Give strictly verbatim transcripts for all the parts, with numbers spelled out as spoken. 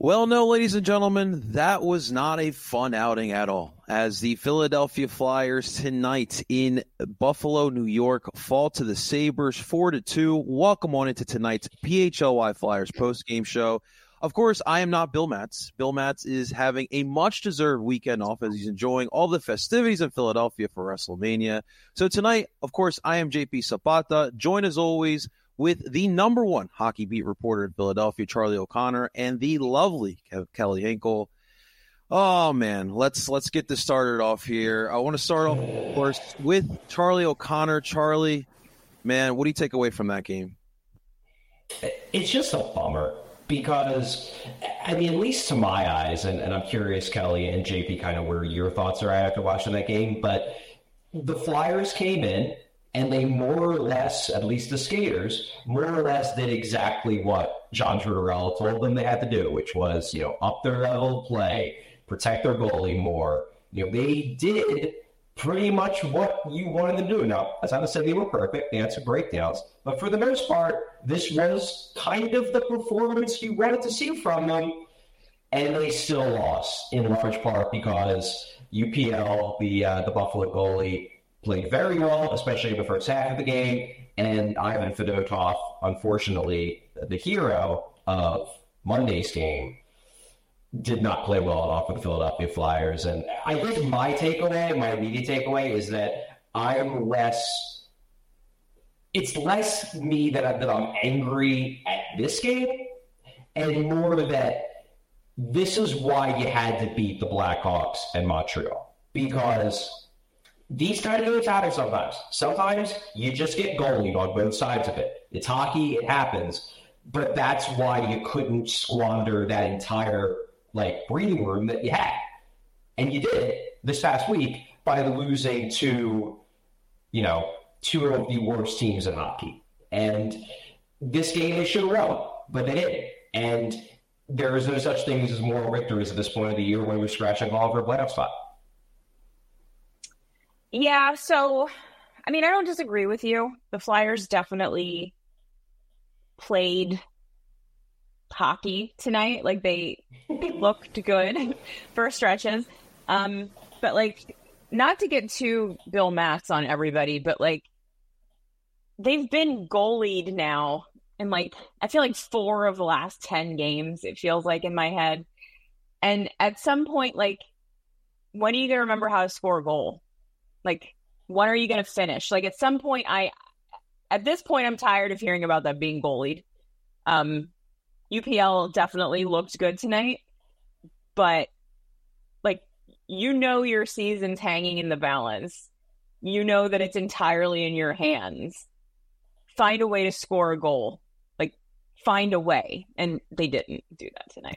Well, no, ladies and gentlemen, that was not a fun outing at all, as the Philadelphia Flyers tonight in Buffalo, New York, fall to the Sabres four to two. Welcome on into tonight's P H L Y Flyers post-game show. Of course, I am not Bill Matz. Bill Matz is having a much-deserved weekend off as he's enjoying all the festivities in Philadelphia for WrestleMania. So tonight, of course, I am J P Zapata, joined as always with the number one hockey beat reporter in Philadelphia, Charlie O'Connor, and the lovely Kelly Hinkle. Oh, man, let's let's get this started off here. I want to start off, of course, with Charlie O'Connor. Charlie, man, what do you take away from that game? It's just a bummer because, I mean, at least to my eyes, and, and I'm curious, Kelly and J P, kind of where your thoughts are at after watching that game, but the Flyers came in, and they more or less, at least the skaters, more or less did exactly what John Tortorella told them they had to do, which was, you know, up their level of play, protect their goalie more. You know, they did pretty much what you wanted them to do. Now, as I said, they were perfect. They had some breakdowns. But for the most part, this was kind of the performance you wanted to see from them. And they still lost, in large part because U P L, the uh, the Buffalo goalie, played very well, especially in the first half of the game. And Ivan Fedotov, unfortunately, the hero of Monday's game, did not play well at all for the Philadelphia Flyers. And I think my takeaway, my immediate takeaway, is that I'm less, it's less me that, I, that I'm angry at this game, and more that this is why you had to beat the Blackhawks and Montreal. Because these kind of games happen sometimes. Sometimes you just get goalied on both sides of it. It's hockey, it happens. But that's why you couldn't squander that entire like breathing room that you had. And you did this past week by losing to, you know, two of the worst teams in hockey. And this game they should have won, but they didn't. And there is no such thing as moral victories at this point of the year when we're scratching all over a playoff spot. Yeah, so, I mean, I don't disagree with you. The Flyers definitely played hockey tonight. Like, they looked good for stretches. Um, but, like, not to get too Bill Matz on everybody, but, like, they've been goalied now in, like, I feel like four of the last ten games, it feels like in my head. And at some point, like, when are you going to remember how to score a goal? Like, when are you going to finish? Like, at some point, I, at this point, I'm tired of hearing about them being goalied. Um, U P L definitely looked good tonight, but, like, you know your season's hanging in the balance. You know that it's entirely in your hands. Find a way to score a goal. Like, find a way. And they didn't do that tonight.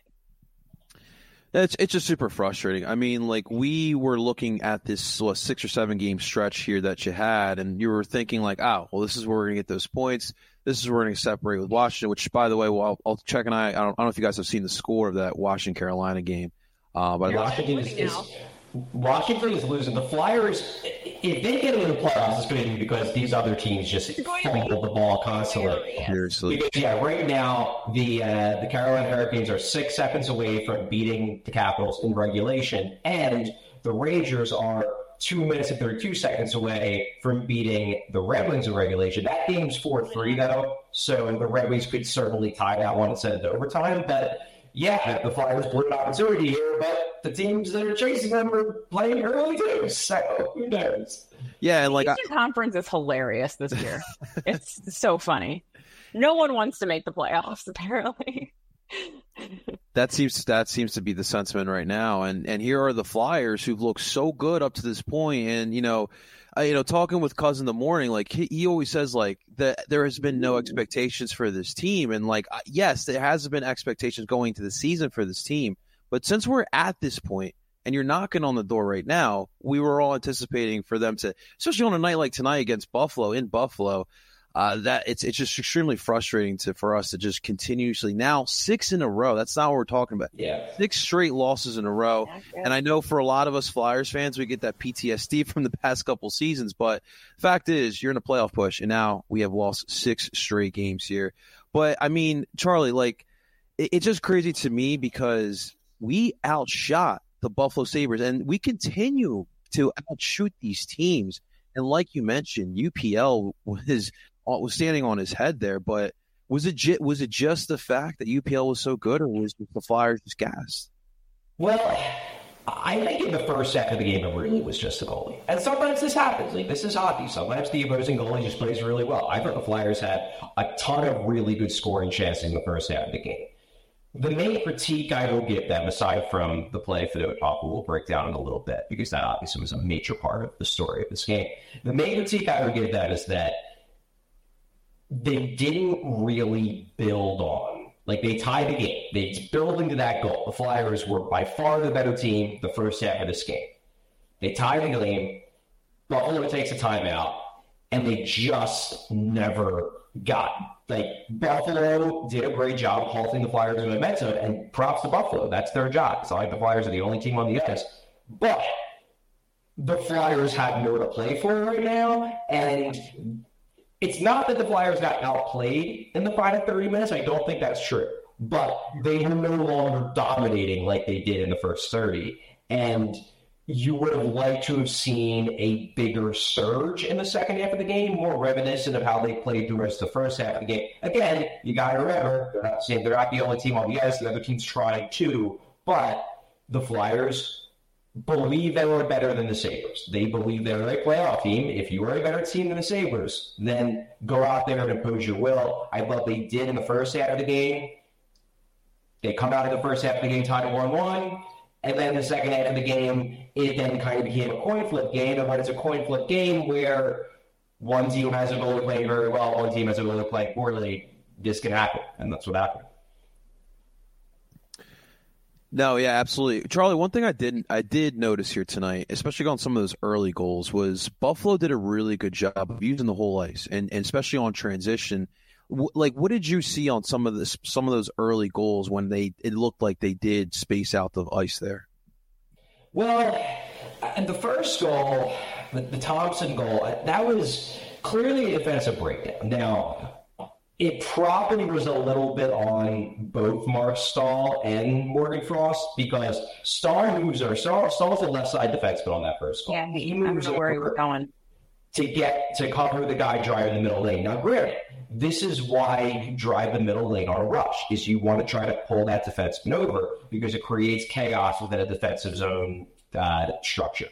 It's it's just super frustrating. I mean, like, we were looking at this what, six or seven game stretch here that you had, and you were thinking like, oh, well, this is where we're going to get those points. This is where we're going to separate with Washington, which, by the way, well, I'll, I'll check and I, I don't, I don't know if you guys have seen the score of that Washington-Carolina game. Uh, but Washington is, is, Washington is losing. The Flyers, if they get into the playoffs, it's going to be because these other teams just fumble the ball constantly. Seriously. Because, yeah, right now, the uh, the Carolina Hurricanes are six seconds away from beating the Capitals in regulation, and the Rangers are two minutes and thirty-two seconds away from beating the Red Wings in regulation. That game's four three, though, so the Red Wings could certainly tie that one and send it to overtime, but yeah, the Flyers blew an opportunity here, but the teams that are chasing them are playing early too, so who knows? Yeah, and like the Eastern I- Conference is hilarious this year. It's so funny. No one wants to make the playoffs, apparently. That seems that seems to be the sentiment right now, and and here are the Flyers who've looked so good up to this point, and you know, uh, you know, talking with Cuz in the morning, like he, he always says, like that there has been no expectations for this team, and like yes, there has been expectations going to the season for this team, but since we're at this point and you're knocking on the door right now, we were all anticipating for them to, especially on a night like tonight against Buffalo in Buffalo. Uh, that it's it's just extremely frustrating to for us to just continuously now six in a row. That's not what we're talking about. Yeah, six straight losses in a row. Yeah, yeah. And I know for a lot of us Flyers fans, we get that P T S D from the past couple seasons. But the fact is, you're in a playoff push, and now we have lost six straight games here. But I mean, Charlie, like it, it's just crazy to me because we outshot the Buffalo Sabres, and we continue to outshoot these teams. And like you mentioned, U P L was was standing on his head there, but was it ju- was it just the fact that U P L was so good, or was the Flyers just gassed? Well, I think in the first half of the game, it really was just the goalie. And sometimes this happens. Like, this is hockey. Sometimes the opposing goalie just plays really well. I thought the Flyers had a ton of really good scoring chances in the first half of the game. The main critique I will give them, aside from the play for the talk, we'll break down in a little bit, because that obviously was a major part of the story of this game. The main critique I would give them is that they didn't really build on. Like, they tied the game. They built into that goal. The Flyers were by far the better team the first half of this game. They tied the game. Buffalo takes a timeout, and they just never got. Like, Buffalo did a great job halting the Flyers in the med zone, and props to Buffalo. That's their job. It's not like the Flyers are the only team on the ice. But the Flyers have nowhere to play for right now, and it's not that the Flyers got outplayed in the final thirty minutes. I don't think that's true. But they are no longer dominating like they did in the first thirty. And you would have liked to have seen a bigger surge in the second half of the game, more reminiscent of how they played the rest of the first half of the game. Again, you got to remember, they're not saying they're not the only team on the ice. The other team's trying too. But the Flyers believe they were better than the Sabres. They believe they're a playoff team. If you are a better team than the Sabres, then go out there and impose your will. I thought they did in the first half of the game. They come out of the first half of the game tied at one one, and then the second half of the game, it then kind of became a coin flip game. And when it's a coin flip game where one team has a goalie playing very well, one team has a goalie playing poorly, this can happen, and that's what happened. No, yeah, absolutely. Charlie, one thing I didn't I did notice here tonight, especially on some of those early goals, was Buffalo did a really good job of using the whole ice, and, and especially on transition. W- like, what did you see on some of this some of those early goals when they it looked like they did space out the ice there? Well, and the first goal, the, the Thompson goal, that was clearly a defensive breakdown. Now, it probably was a little bit on both Mark Stahl and Morgan Frost, because Stahl moves over. Stahl, Stahl's the left side defenseman on that first goal. Yeah, he, he moves over where he was going to get to cover the guy driving the middle lane. Now, granted, this is why you drive the middle lane on a rush, is you want to try to pull that defenseman over because it creates chaos within a defensive zone uh, structure.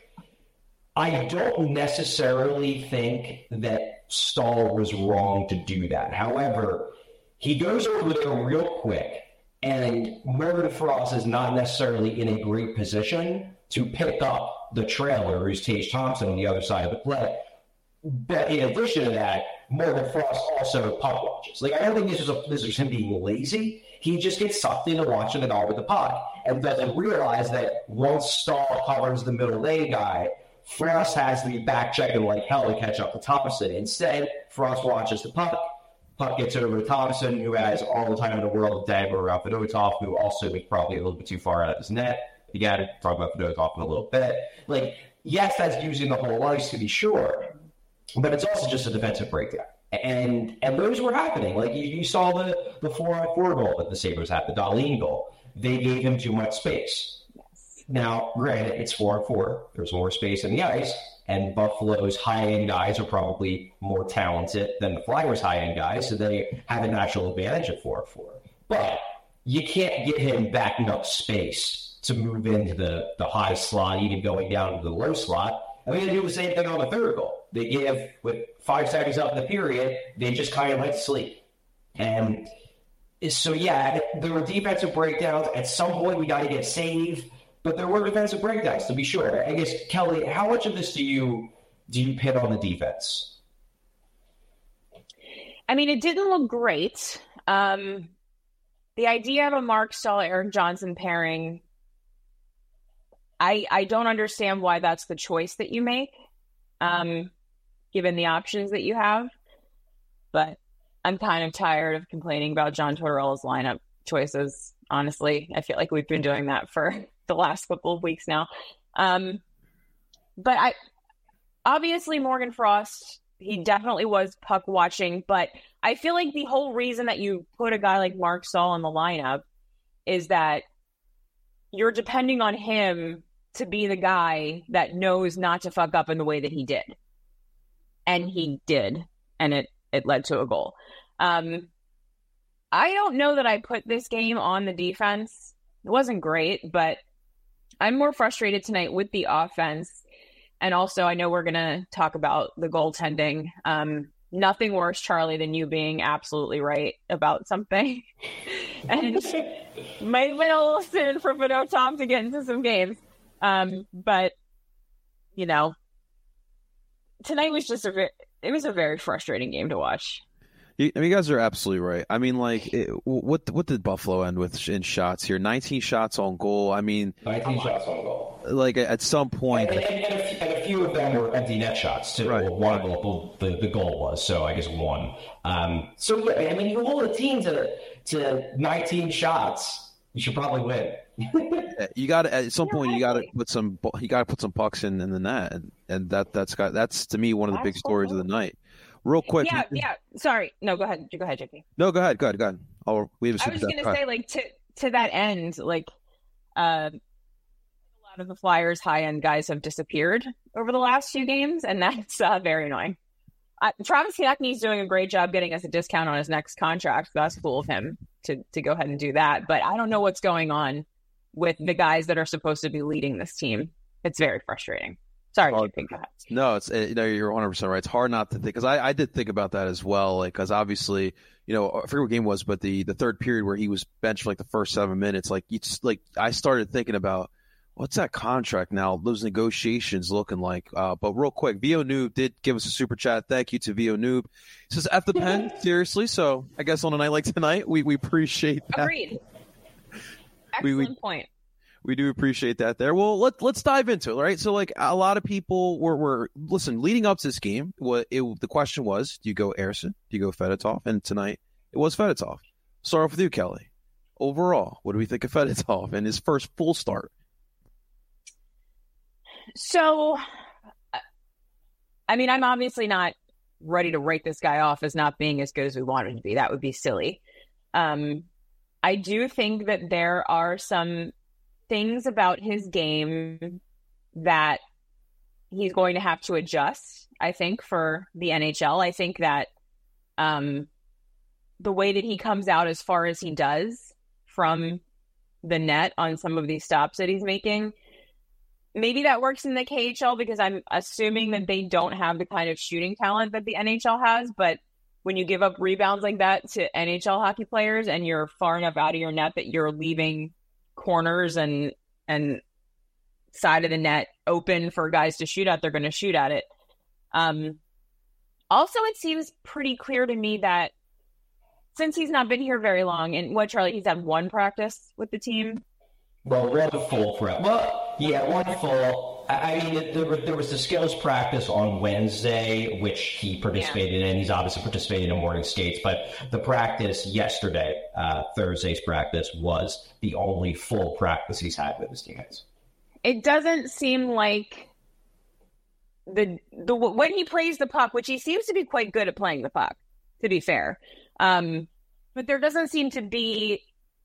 I don't necessarily think that Stahl was wrong to do that. However, he goes over there real quick, and Morgan Frost is not necessarily in a great position to pick up the trailer, who's Tage Thompson on the other side of the play. But in addition to that, Morgan Frost also puck watches. Like, I don't think this is, a, this is him being lazy. He just gets sucked into watching the guy with the puck and doesn't realize that once Stahl covers the middle lane guy, Frost has to be back checking like hell to catch up to Thompson. Instead, Frost watches the puck. Puck gets over to Thompson, who has all the time in the world to dagger around Fedotov, who also is probably a little bit too far out of his net. You got to talk about Fedotov in a little bit. Like, yes, that's using the whole ice to be sure, but it's also just a defensive breakdown. And and those were happening. Like, you, you saw the, the four-on-four goal that the Sabres had, the Dahlin goal. They gave him too much space. Now, granted, it's four and four. There's more space in the ice, and Buffalo's high-end guys are probably more talented than the Flyers' high-end guys, so they have a natural advantage at four and four. But you can't get him backing up space to move into the, the high slot, even going down to the low slot. I mean, they do the same thing on the third goal. They give, with five seconds up in the period, they just kind of let sleep. And so, yeah, there were defensive breakdowns. At some point, we got to get saved. But there were defensive breakdowns, to be sure. I guess, Kelly, how much of this do you do you pin on the defense? I mean, it didn't look great. Um, the idea of a Mark Stahl, Erik Johnson pairing, I I don't understand why that's the choice that you make, um, given the options that you have. But I'm kind of tired of complaining about John Tortorella's lineup choices, honestly. I feel like we've been doing that for the last couple of weeks now. Um, but I obviously Morgan Frost, he definitely was puck watching, but I feel like the whole reason that you put a guy like Mark Stahl in the lineup is that you're depending on him to be the guy that knows not to fuck up in the way that he did. And he did. And it, it led to a goal. Um, I don't know that I put this game on the defense. It wasn't great, but I'm more frustrated tonight with the offense. And also, I know we're going to talk about the goaltending. Um, nothing worse, Charlie, than you being absolutely right about something. And might have been a little soon for Fedotov to get into some games. Um, but, you know, tonight was just a very, it was a very frustrating game to watch. You, I mean, you guys are absolutely right. I mean, like, it, what what did Buffalo end with in shots here? nineteen shots on goal. I mean, nineteen shots on goal. Like, at some point, and, and, and, a, few, and a few of them were empty net shots too. Right. Well, one goal, the, the goal was, so I guess one. Um, so yeah, I mean, you hold a team to to nineteen shots, you should probably win. You got to at some point you got to put some you got to put some pucks in, in the net, and, and that that's got that's to me one of the big stories of the night. Real quick, yeah, yeah. Sorry, no, go ahead, go ahead, J P. No, go ahead, go ahead, go ahead. Oh, we have. A I was just gonna say, like to to that end, like uh, a lot of the Flyers' high end guys have disappeared over the last few games, and that's uh, very annoying. Uh, Travis Konecny's doing a great job getting us a discount on his next contract. That's cool of him to to go ahead and do that. But I don't know what's going on with the guys that are supposed to be leading this team. It's very frustrating. Sorry, J P, go ahead. No, it's you know you're one hundred percent right. It's hard not to think because I, I did think about that as well. Like because obviously you know I forget what game it was, but the, the third period where he was benched for like the first seven minutes, like it's like I started thinking about what's that contract now? Those negotiations looking like. Uh, but real quick, Vio Noob did give us a super chat. Thank you to Vio Noob. He says F the pen seriously. So I guess on a night like tonight, we we appreciate that. Agreed. Excellent we, we, point. We do appreciate that there. Well, let, let's dive into it, right? So, like, a lot of people were, were listen, leading up to this game, what it, the question was, do you go Ersson? Do you go Fedotov? And tonight, it was Fedotov. Start off with you, Kelly. Overall, what do we think of Fedotov and his first full start? So, I mean, I'm obviously not ready to write this guy off as not being as good as we want him to be. That would be silly. Um, I do think that there are some things about his game that he's going to have to adjust, I think, for the N H L. I think that um, the way that he comes out as far as he does from the net on some of these stops that he's making, maybe that works in the K H L because I'm assuming that they don't have the kind of shooting talent that the N H L has. But when you give up rebounds like that to N H L hockey players and you're far enough out of your net that you're leaving corners and and side of the net open for guys to shoot at, they're going to shoot at it. Um, also, it seems pretty clear to me that since he's not been here very long, and what, Charlie, he's had one practice with the team? Well, one full prep. Well, yeah, one full. I mean, there, there was the skills practice on Wednesday, which he participated yeah. in. He's obviously participated in morning skates, but the practice yesterday, uh, Thursday's practice, was the only full practice he's had with his teammates. It doesn't seem like the the when he plays the puck, which he seems to be quite good at playing the puck, to be fair. Um, but there doesn't seem to be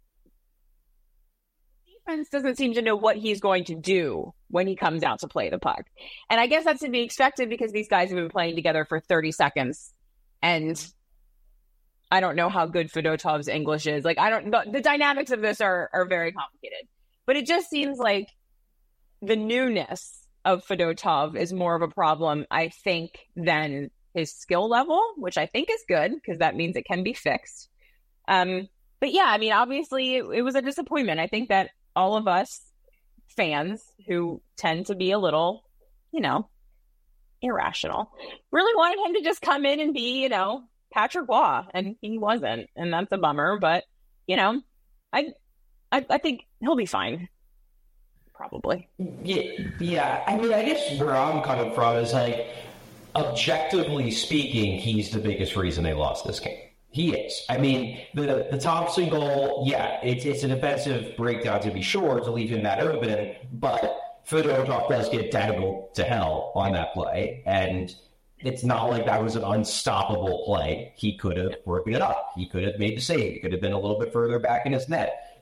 defense doesn't seem to know what he's going to do when he comes out to play the puck. And I guess that's to be expected because these guys have been playing together for thirty seconds. And I don't know how good Fedotov's English is. Like, I don't the, the dynamics of this are, are very complicated. But it just seems like the newness of Fedotov is more of a problem, I think, than his skill level, which I think is good because that means it can be fixed. Um, but yeah, I mean, obviously it, it was a disappointment. I think that all of us fans who tend to be a little, you know, irrational, really wanted him to just come in and be, you know, Patrick Waugh, and he wasn't, and that's a bummer. But you know, I, I, I think he'll be fine, probably. Yeah, yeah. I mean, I guess where I'm coming from is like, objectively speaking, he's the biggest reason they lost this game. He is. I mean, the the Thompson goal, yeah, it's it's a defensive breakdown to be sure to leave him that open, but Fedotov does get dangled to hell on that play, and it's not like that was an unstoppable play. He could have broken it up. He could have made the save. He could have been a little bit further back in his net.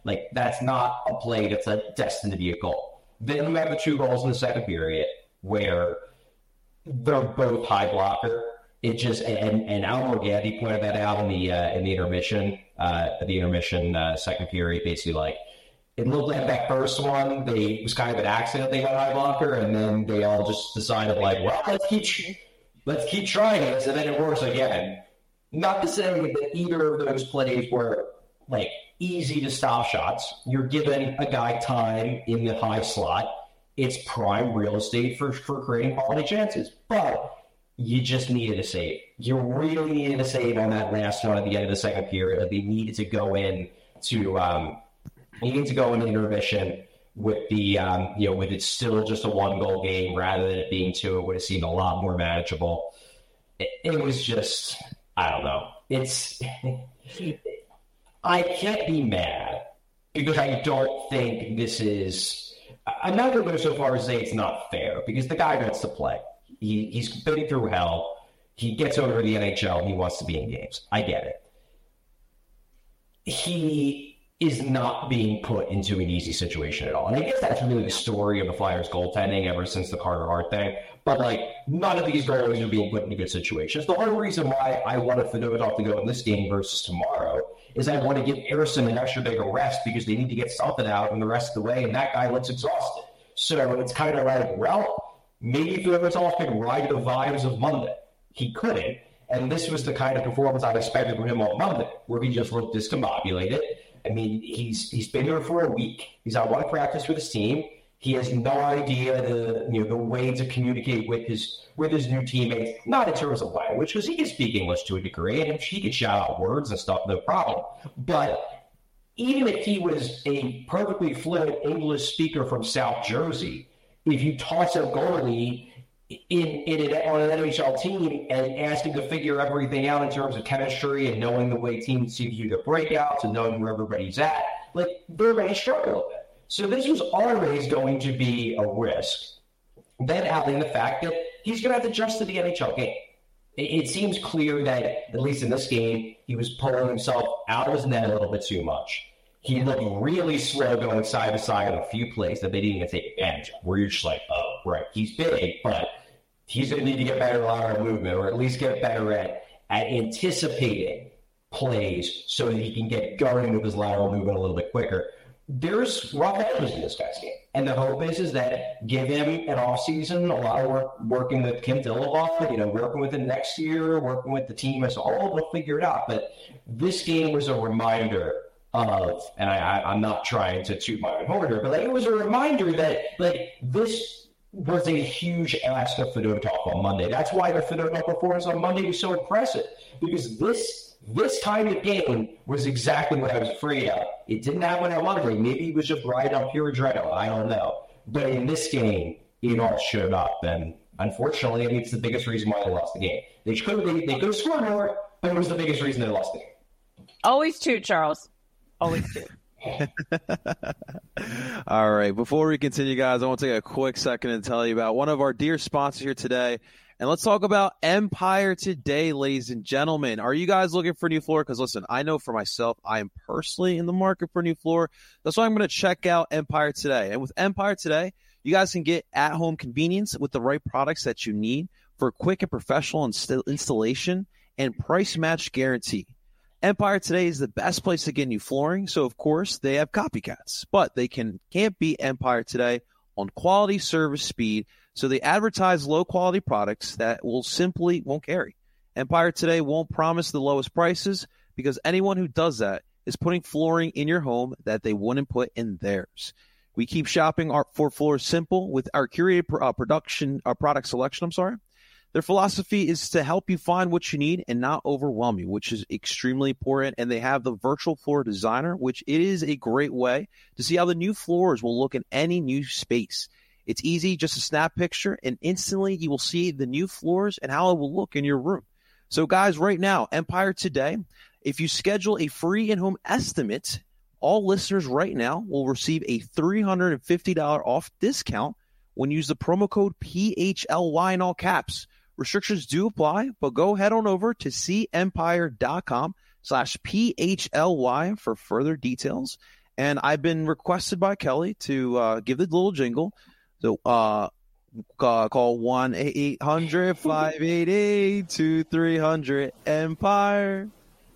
Like, that's not a play that's a destined to be a goal. Then you have the two goals in the second period where they're both high blocker. It just and and Al Morganti pointed that out in the uh, in the intermission, uh, the intermission uh, second period. Basically, like it looked like that first one, they it was kind of an accident they got high blocker, and then they all just decided like, well, let's keep let's keep trying this, and then it works again. Not to say that either of those plays were like easy to stop shots. You're giving a guy time in the high slot. It's prime real estate for for creating quality chances, but you just needed a save. You really needed a save on that last one at the end of the second period. They needed to go in to um, needing to go into intermission with the um, you know with it still just a one goal game rather than it being two. It would have seemed a lot more manageable. It, it was just I don't know. It's I can't be mad because I don't think this is. I'm not going to go so far as to say it's not fair because the guy wants to play. He, he's been through hell. He gets over the N H L. And he wants to be in games. I get it. He is not being put into an easy situation at all. And I guess that's really the story of the Flyers goaltending ever since the Carter Hart thing. But, like, none of these goalies are being put into good situations. The only reason why I wanted Fedotov to go in this game versus tomorrow is I want to give Harrison an extra big rest because they need to get something out in the rest of the way, and that guy looks exhausted. So it's kind of like, well, maybe Fedotov could ride the vibes of Monday. He couldn't, and this was the kind of performance I expected from him on Monday, where he just looked discombobulated. I mean, he's he's been here for a week. He's on one practice with his team. He has no idea the you know the way to communicate with his with his new teammates. Not in terms of language, because he can speak English to a degree, and he can shout out words and stuff, no problem. But even if he was a perfectly fluent English speaker from South Jersey, if you toss a goalie in in an, on an N H L team and ask him to figure everything out in terms of chemistry and knowing the way teams see you the breakouts and knowing where everybody's at, like they're going to struggle a bit. So this was always going to be a risk. Then adding the fact that he's going to have to adjust to the N H L game. It, it seems clear that, at least in this game, he was pulling himself out of his net a little bit too much. He looked really slow going side to side on a few plays that they didn't even take advantage of, where you're just like, oh, right, he's big, but he's going to need to get better at lateral movement, or at least get better at, at anticipating plays so that he can get going with his lateral movement a little bit quicker. There's rough edges in this guy's game. And the hope is, is that give him an offseason, a lot of work working with Kim Dillabaugh, you know, working with him next year, working with the team as a whole, we'll figure it out. But this game was a reminder of, and I, I, I'm not trying to toot my own horn here, but like, it was a reminder that like this was a huge ask of Fedotov on Monday. That's why the Fedotov performance on Monday was so impressive, because this This kind of game was exactly what I was afraid of. It didn't happen on Monday. Maybe it was just right on pure adrenaline. I don't know. But in this game, it all showed up. And unfortunately, I mean, it's the biggest reason why they lost the game. They could have, they, they could have scored more, but it was the biggest reason they lost the game. Always two, Charles. Always two. All right. Before we continue, guys, I want to take a quick second and tell you about one of our dear sponsors here today. And let's talk about Empire Today, ladies and gentlemen. Are you guys looking for a new floor? Because listen, I know for myself, I am personally in the market for a new floor. That's why I'm going to check out Empire Today. And with Empire Today, you guys can get at-home convenience with the right products that you need for quick and professional inst- installation and price match guarantee. Empire Today is the best place to get new flooring. So, of course, they have copycats. But they can, can't beat Empire Today on quality, service, speed. So they advertise low-quality products that will simply won't carry. Empire Today won't promise the lowest prices because anyone who does that is putting flooring in your home that they wouldn't put in theirs. We keep shopping our, for floors simple with our curated uh, production, uh, product selection, I'm sorry. Their philosophy is to help you find what you need and not overwhelm you, which is extremely important. And they have the virtual floor designer, which it is a great way to see how the new floors will look in any new space. It's easy, just a snap picture, and instantly you will see the new floors and how it will look in your room. So, guys, right now, Empire Today, if you schedule a free in-home estimate, all listeners right now will receive a three hundred fifty dollars off discount when you use the promo code P H L Y in all caps. Restrictions do apply, but go head on over to cempire.com slash P H L Y for further details. And I've been requested by Kelly to uh, give the little jingle. So uh, uh, call one eight hundred five eight eight two three hundred Empire.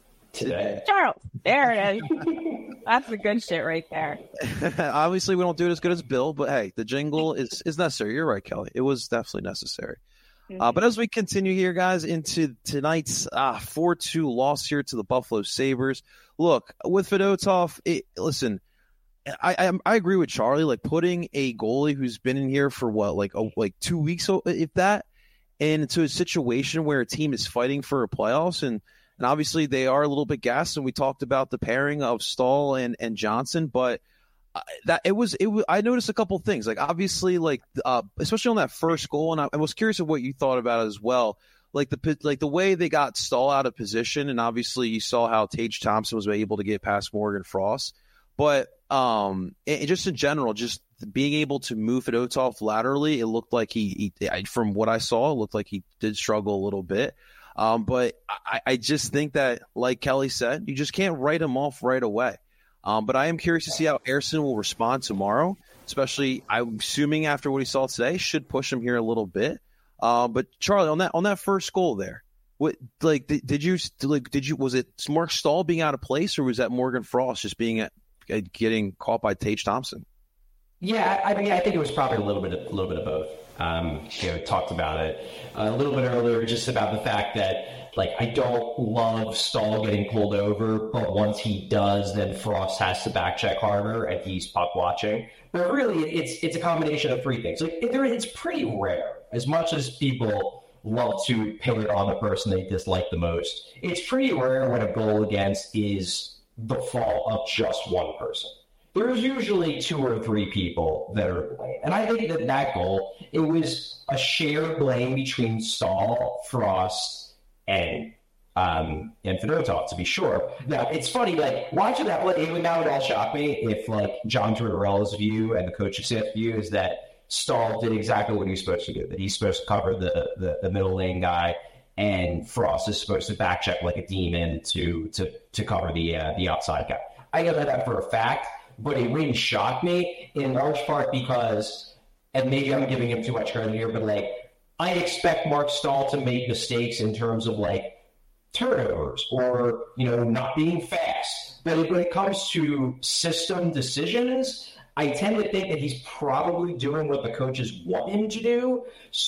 Today. Charles, there it is. That's the good shit right there. Obviously, we don't do it as good as Bill, but hey, the jingle is, is necessary. You're right, Kelly. It was definitely necessary. Mm-hmm. Uh, but as we continue here, guys, into tonight's uh, four two loss here to the Buffalo Sabres, look, with Fedotov, it, listen, I, I I agree with Charlie. Like, putting a goalie who's been in here for, what, like oh, like two weeks, if that, into a situation where a team is fighting for a playoffs, and And obviously they are a little bit gassed, and we talked about the pairing of Stahl and, and Johnson, but that it was it was, I noticed a couple things. Like, obviously, like uh, especially on that first goal, and I, I was curious of what you thought about it as well. Like the like the way they got Stahl out of position, and obviously you saw how Tage Thompson was able to get past Morgan Frost, but um, it, just in general, just being able to move Fedotov laterally, it looked like he, he from what I saw, it looked like he did struggle a little bit. Um, but I, I just think that, like Kelly said, you just can't write him off right away. Um, but I am curious to see how Ersson will respond tomorrow, especially I'm assuming after what he saw today, should push him here a little bit. Uh, but Charlie, on that on that first goal there, what like did, did you like did you was it Mark Stahl being out of place, or was that Morgan Frost just being at, at getting caught by Tage Thompson? Yeah, I mean, I think it was probably a little bit, of, a little bit of both. Um, you know, talked about it a little bit earlier, just about the fact that, like, I don't love Stahl getting pulled over, but once he does, then Frost has to back check harder, and he's puck watching. But really, it's it's a combination of three things. Like, it, it's pretty rare, as much as people love to pin it on the person they dislike the most. It's pretty rare when a goal against is the fault of just one person. There's usually two or three people that are to blame. And I think that that goal, it was a shared blame between Stahl, Frost, and um, and Fedotov, to be sure. Now, it's funny, like, watching that play, it would now would all shock me if, like, John Tortorella's view and the coaching staff's view is that Stahl did exactly what he was supposed to do, that he's supposed to cover the, the, the middle lane guy, and Frost is supposed to back check like a demon to to to cover the uh, the outside guy. I know that for a fact. But it really shocked me in large part because, and maybe I'm giving him too much credit here, but, like, I expect Mark Stahl to make mistakes in terms of, like, turnovers or, you know, not being fast. But when it comes to system decisions, I tend to think that he's probably doing what the coaches want him to do.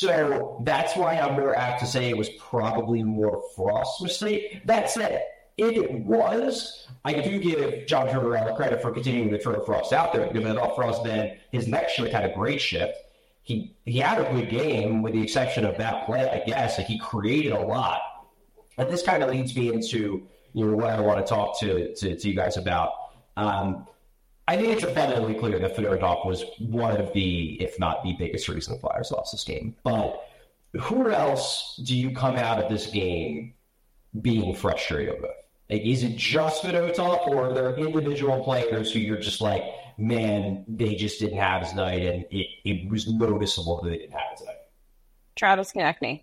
So that's why I'm more apt to say it was probably more Frost's mistake. That said, if it was, I do give John Tortorella credit for continuing to throw Frost out there, because I thought Frost then, his next shift had a great shift. He he had a good game, with the exception of that play, I guess. Like, he created a lot. And this kind of leads me into, you know, what I want to talk to, to, to you guys about. Um, I think it's abundantly clear that Fedotov was one of the, if not the biggest reason the Flyers lost this game. But who else do you come out of this game being frustrated with? Like, is it just Fedotov, or are there individual players who you're just like, man, they just didn't have his night, and it, it was noticeable that they didn't have his night? Travis Konechny.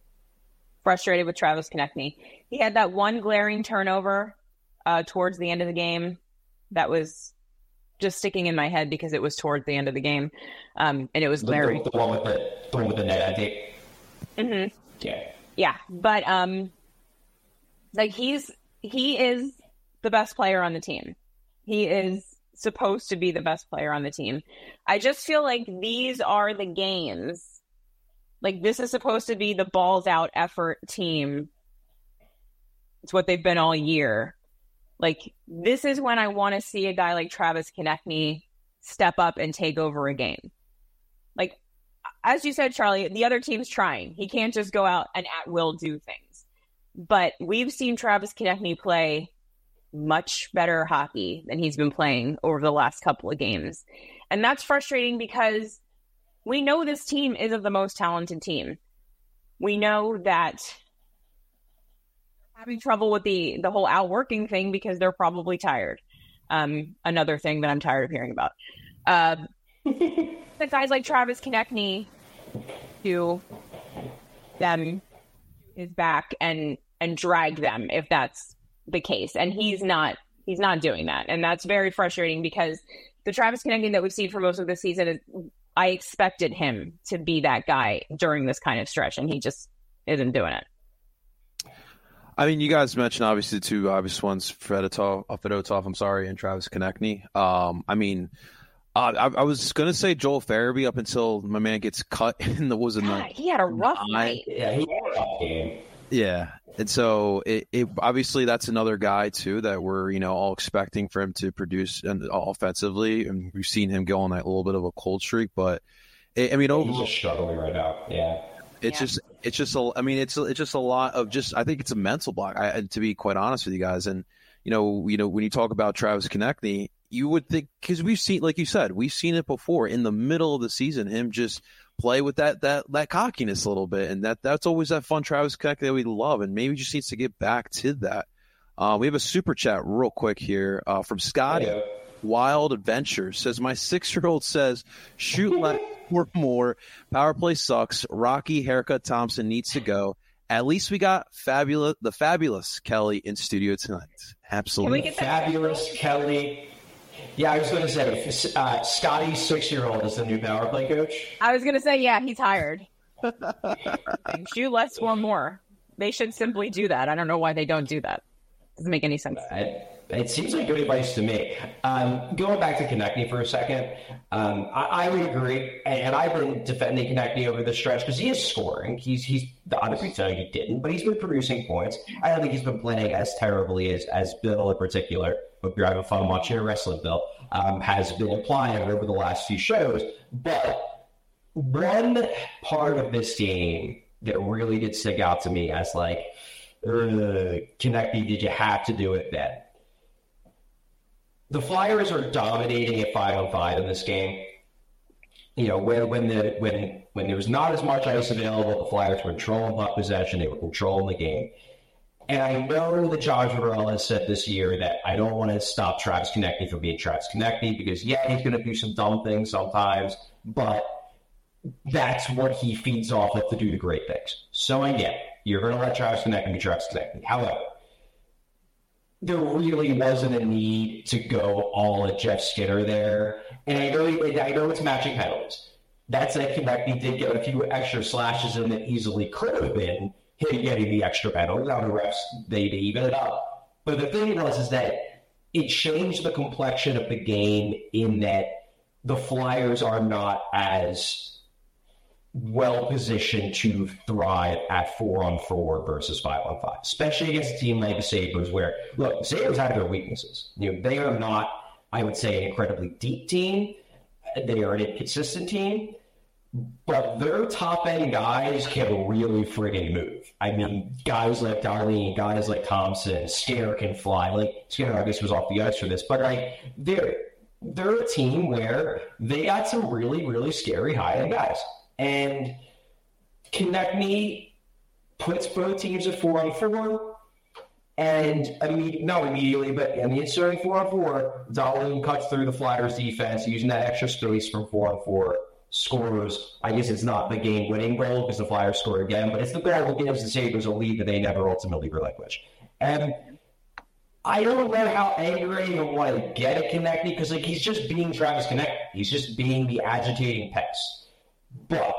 Frustrated with Travis Konechny. He had that one glaring turnover uh, towards the end of the game that was just sticking in my head because it was towards the end of the game, um, and it was glaring. The, the, the one with the, the one with the net, I think. Mm-hmm. Yeah. Yeah, but um, like he's he is the best player on the team. He is supposed to be the best player on the team. I just feel like these are the games. Like, this is supposed to be the balls out effort team. It's what they've been all year. Like, this is when I want to see a guy like Travis Konechny step up and take over a game. Like, as you said, Charlie, the other team's trying. He can't just go out and at will do things. But we've seen Travis Konechny play much better hockey than he's been playing over the last couple of games. And that's frustrating because we know this team isn't the most talented team. We know that they're having trouble with the, the whole outworking thing because they're probably tired. Um, another thing that I'm tired of hearing about. Uh, the guys like Travis Konechny do them his back and and drag them if that's the case. And he's not He's not doing that. And that's very frustrating because the Travis Konecny that we've seen for most of the season, is, I expected him to be that guy during this kind of stretch, and he just isn't doing it. I mean, you guys mentioned obviously the two obvious ones, Fedotov, uh, Fedotov, I'm sorry, and Travis Konecny. Um, I mean, uh, I, I was going to say Joel Farabee up until my man gets cut in the was in the He had a rough night. Yeah, he had a rough game. Yeah, and so it, it obviously that's another guy too that we're you know all expecting for him to produce and offensively, and we've seen him go on that little bit of a cold streak. But it, I mean, yeah, overall, he's just struggling right now. Yeah, it's yeah. just it's just a, I mean, it's it's just a lot of just I think it's a mental block. I, to be quite honest with you guys, and you know you know when you talk about Travis Konecny, you would think because we've seen, like you said, we've seen it before in the middle of the season, him just play with that that that cockiness a little bit, and that that's always that fun Travis Konecny that we love, and maybe just needs to get back to that. Uh, we have a super chat real quick here uh, from Scotty. Yeah. Wild Adventures says, my six-year-old says, shoot less or more. Power play sucks. Rocky haircut Thompson needs to go. At least we got fabulous the fabulous Kelly in studio tonight. Absolutely. Can we get that Fabulous Kelly. Yeah, I was going to say, uh, Scotty's six-year-old is the new power play coach. I was going to say, yeah, he's hired. Shoot less or more. They should simply do that. I don't know why they don't do that. Doesn't make any sense. It, it seems like good advice to me. Um, going back to Konecny for a second, um, I, I would agree, and I've been defending Konecny over the stretch because he is scoring. He's he's obviously saying he didn't, but he's been producing points. I don't think he's been playing as terribly as, as Bill in particular. Hope you're having fun watching your wrestling, Bill, um, has been implying over the last few shows. But one part of this game that really did stick out to me as like, Konecny, did you have to do it then? The Flyers are dominating at five on five in this game. You know, when when the when when there was not as much ice available, the Flyers were controlling puck possession, they were controlling the game. And I know that Josh Varela has said this year that I don't want to stop Travis Konecny from being Travis Konecny because, yeah, he's going to do some dumb things sometimes, but that's what he feeds off of to do the great things. So I get it. You're going to let Travis Konecny be Travis Konecny. However, there really wasn't a need to go all at Jeff Skinner there. And I know, I know it's matching penalties. That said, Konecny did get a few extra slashes in that easily could have been him getting the extra penalty. Now the refs, they, they even it up. But the thing was is that it changed the complexion of the game in that the Flyers are not as well positioned to thrive at four on four versus five on five, especially against a team like the Sabres, where look, the Sabres have their weaknesses. You know, they are not, I would say, an incredibly deep team. They are an inconsistent team, but their top end guys can really friggin' move. I mean, guys like Darlene, guys like Thompson, Skinner can fly. Like Skinner, I guess, was off the ice for this, but like they're they're a team where they got some really, really scary high end guys. And Konecny puts both teams at four on four, and I mean, not immediately, but I mean, starting four on four, Dahlin cuts through the Flyers defense using that extra space from four on four, scores. I guess it's not the game-winning goal because the Flyers score again, but it's the goal that gives the Sabres a lead that they never ultimately relinquish. And I don't know how angry you want to get at Konecny because like he's just being Travis Konecny. He's just being the agitating pest. But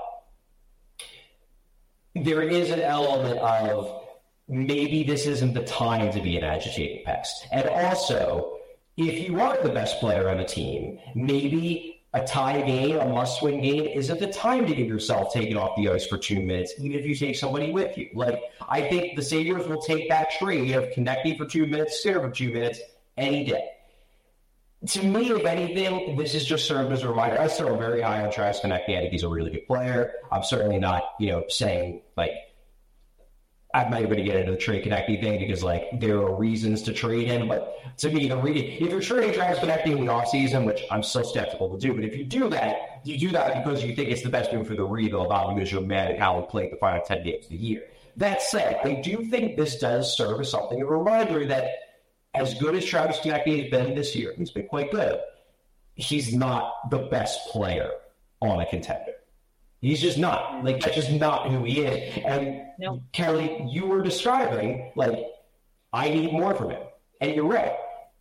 there is an element of maybe this isn't the time to be an agitating pest. And also, if you are the best player on the team, maybe a tie game, a must-win game, isn't the time to get yourself taken off the ice for two minutes, even if you take somebody with you. Like, I think the Sabres will take that trade of Konecny for two minutes, Skinner for two minutes, any day. To me, if anything, this is just served as a reminder. I still am very high on Travis Konecny. I think he's a really good player. I'm certainly not, you know, saying, like, I'm not even going to get into the trade Konecny thing because, like, there are reasons to trade him. But to me, the re- if you're trading Travis Konecny in the offseason, which I'm so skeptical to do, but if you do that, you do that because you think it's the best move for the rebuild, not because you're mad at how he played the final ten games of the year. That said, I do think this does serve as something, a reminder that as good as Travis Konecny has been this year, he's been quite good, he's not the best player on a contender. He's just not. Like, that's just not who he is. And, no. Kelly, you were describing, like, I need more from him. And you're right.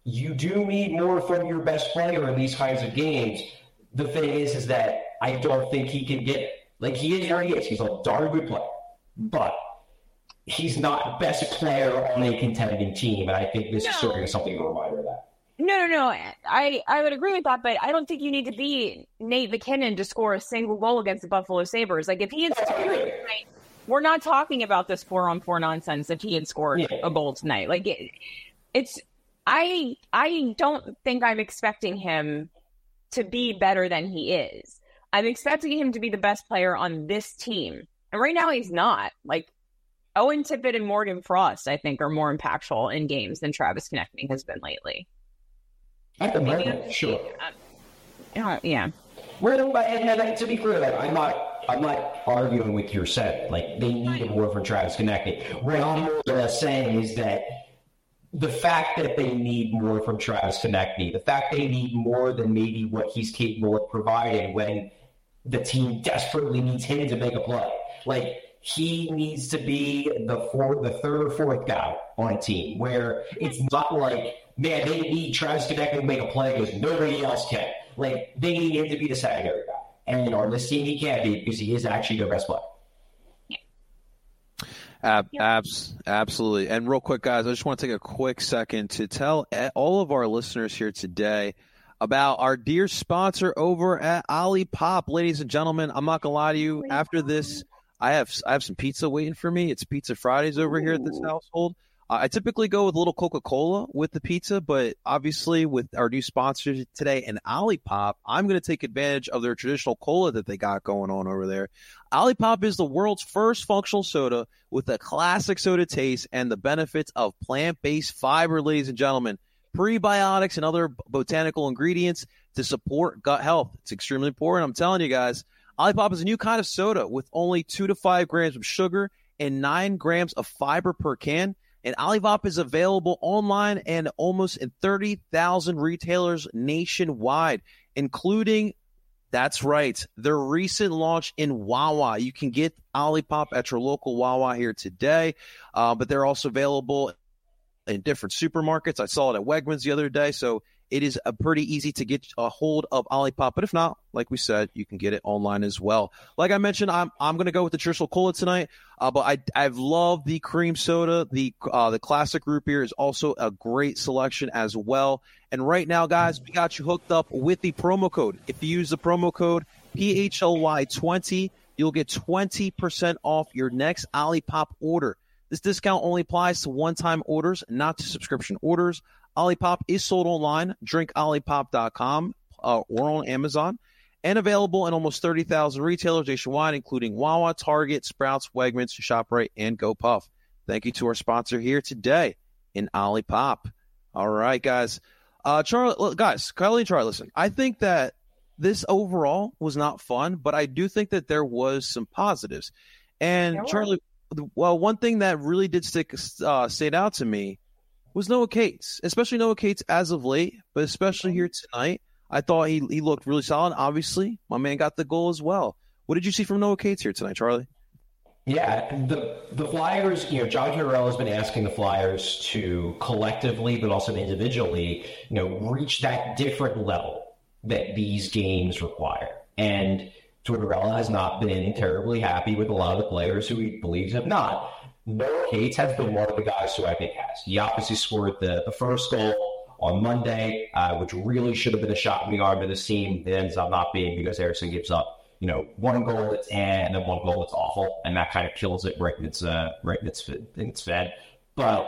you do need more from your best player in these kinds of games. The thing is, is that I don't think he can get it. Like, he is where he is. He's a darn good player. But he's not best player on a contending team, and I think this no. is certainly something to remind of that. No, no, no. I, I would agree with that, but I don't think you need to be Nate McKinnon to score a single goal against the Buffalo Sabres. Like, if he had scored tonight, we're not talking about this four-on-four nonsense if he had scored yeah. a goal tonight. Like, it, it's I I don't think I'm expecting him to be better than he is. I'm expecting him to be the best player on this team. And right now he's not. Like, Owen Tippett and Morgan Frost, I think, are more impactful in games than Travis Konecny has been lately. At the moment, sure. Uh, yeah. We're and, and to be clear, like, I'm not, I'm not arguing with your set. Like, they need more from Travis Konecny. What I'm more or less saying is that the fact that they need more from Travis Konecny, the fact they need more than maybe what he's capable of providing when the team desperately needs him to make a play. Like, he needs to be the fourth, the third or fourth guy on a team where it's not like, man, they need Travis Konecny to make a play because nobody else can. Like, they need him to be the secondary guy. And on this team, he can't be because he is actually their best player. Ab- abs- absolutely. And real quick, guys, I just want to take a quick second to tell all of our listeners here today about our dear sponsor over at Olipop. Ladies and gentlemen, I'm not going to lie to you. After this, I have I have some pizza waiting for me. It's Pizza Fridays over here at this household. Uh, I typically go with a little Coca-Cola with the pizza, but obviously with our new sponsors today and Olipop, I'm going to take advantage of their traditional cola that they got going on over there. Olipop is the world's first functional soda with a classic soda taste and the benefits of plant-based fiber, ladies and gentlemen, prebiotics and other botanical ingredients to support gut health. It's extremely important. I'm telling you guys, Olipop is a new kind of soda with only two to five grams of sugar and nine grams of fiber per can. And Olipop is available online and almost in thirty thousand retailers nationwide, including, that's right, their recent launch in Wawa. You can get Olipop at your local Wawa here today, uh, but they're also available in different supermarkets. I saw it at Wegmans the other day, so it is a pretty easy to get a hold of Olipop. But if not, like we said, you can get it online as well. Like I mentioned, I'm I'm going to go with the traditional cola tonight, uh, but I I've loved the cream soda. The uh, the classic root beer is also a great selection as well. And right now, guys, we got you hooked up with the promo code. If you use the promo code P H L Y twenty, you'll get twenty percent off your next Olipop order. This discount only applies to one-time orders, not to subscription orders. Olipop is sold online, drink olipop dot com, uh, or on Amazon, and available in almost thirty thousand retailers nationwide, including Wawa, Target, Sprouts, Wegmans, ShopRite, and GoPuff. Thank you to our sponsor here today in Olipop. All right, guys. Uh, Charlie, guys, Kylie and Charlie, listen, I think that this overall was not fun, but I do think that there was some positives. And yeah, Charlie, well, one thing that really did stick uh, stand out to me was Noah Cates, especially Noah Cates as of late, but especially here tonight. I thought he he looked really solid. Obviously, my man got the goal as well. What did you see from Noah Cates here tonight, Charlie? Yeah, the the Flyers, you know, John Tortorella has been asking the Flyers to collectively, but also individually, you know, reach that different level that these games require. And Tortorella has not been terribly happy with a lot of the players who he believes have not. Noah Cates has been one of the guys who I think has. He obviously scored the, the first goal on Monday, uh, which really should have been a shot in the arm to this team. It ends up not being because Harrison gives up, you know, one goal that's and then one goal that's awful, and that kind of kills it right in its uh, right in its in its fed. But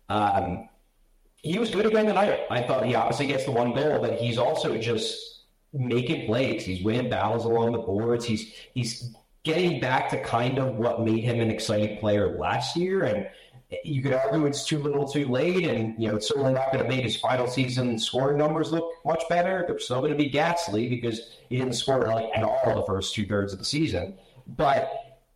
um, he was good again tonight. I thought he obviously gets the one goal, but he's also just making plays. He's winning battles along the boards. He's he's getting back to kind of what made him an exciting player last year. And you could argue it's too little too late. And, you know, it's certainly not going to make his final season scoring numbers look much better. They're still going to be ghastly because he didn't score like at all the first two thirds of the season. But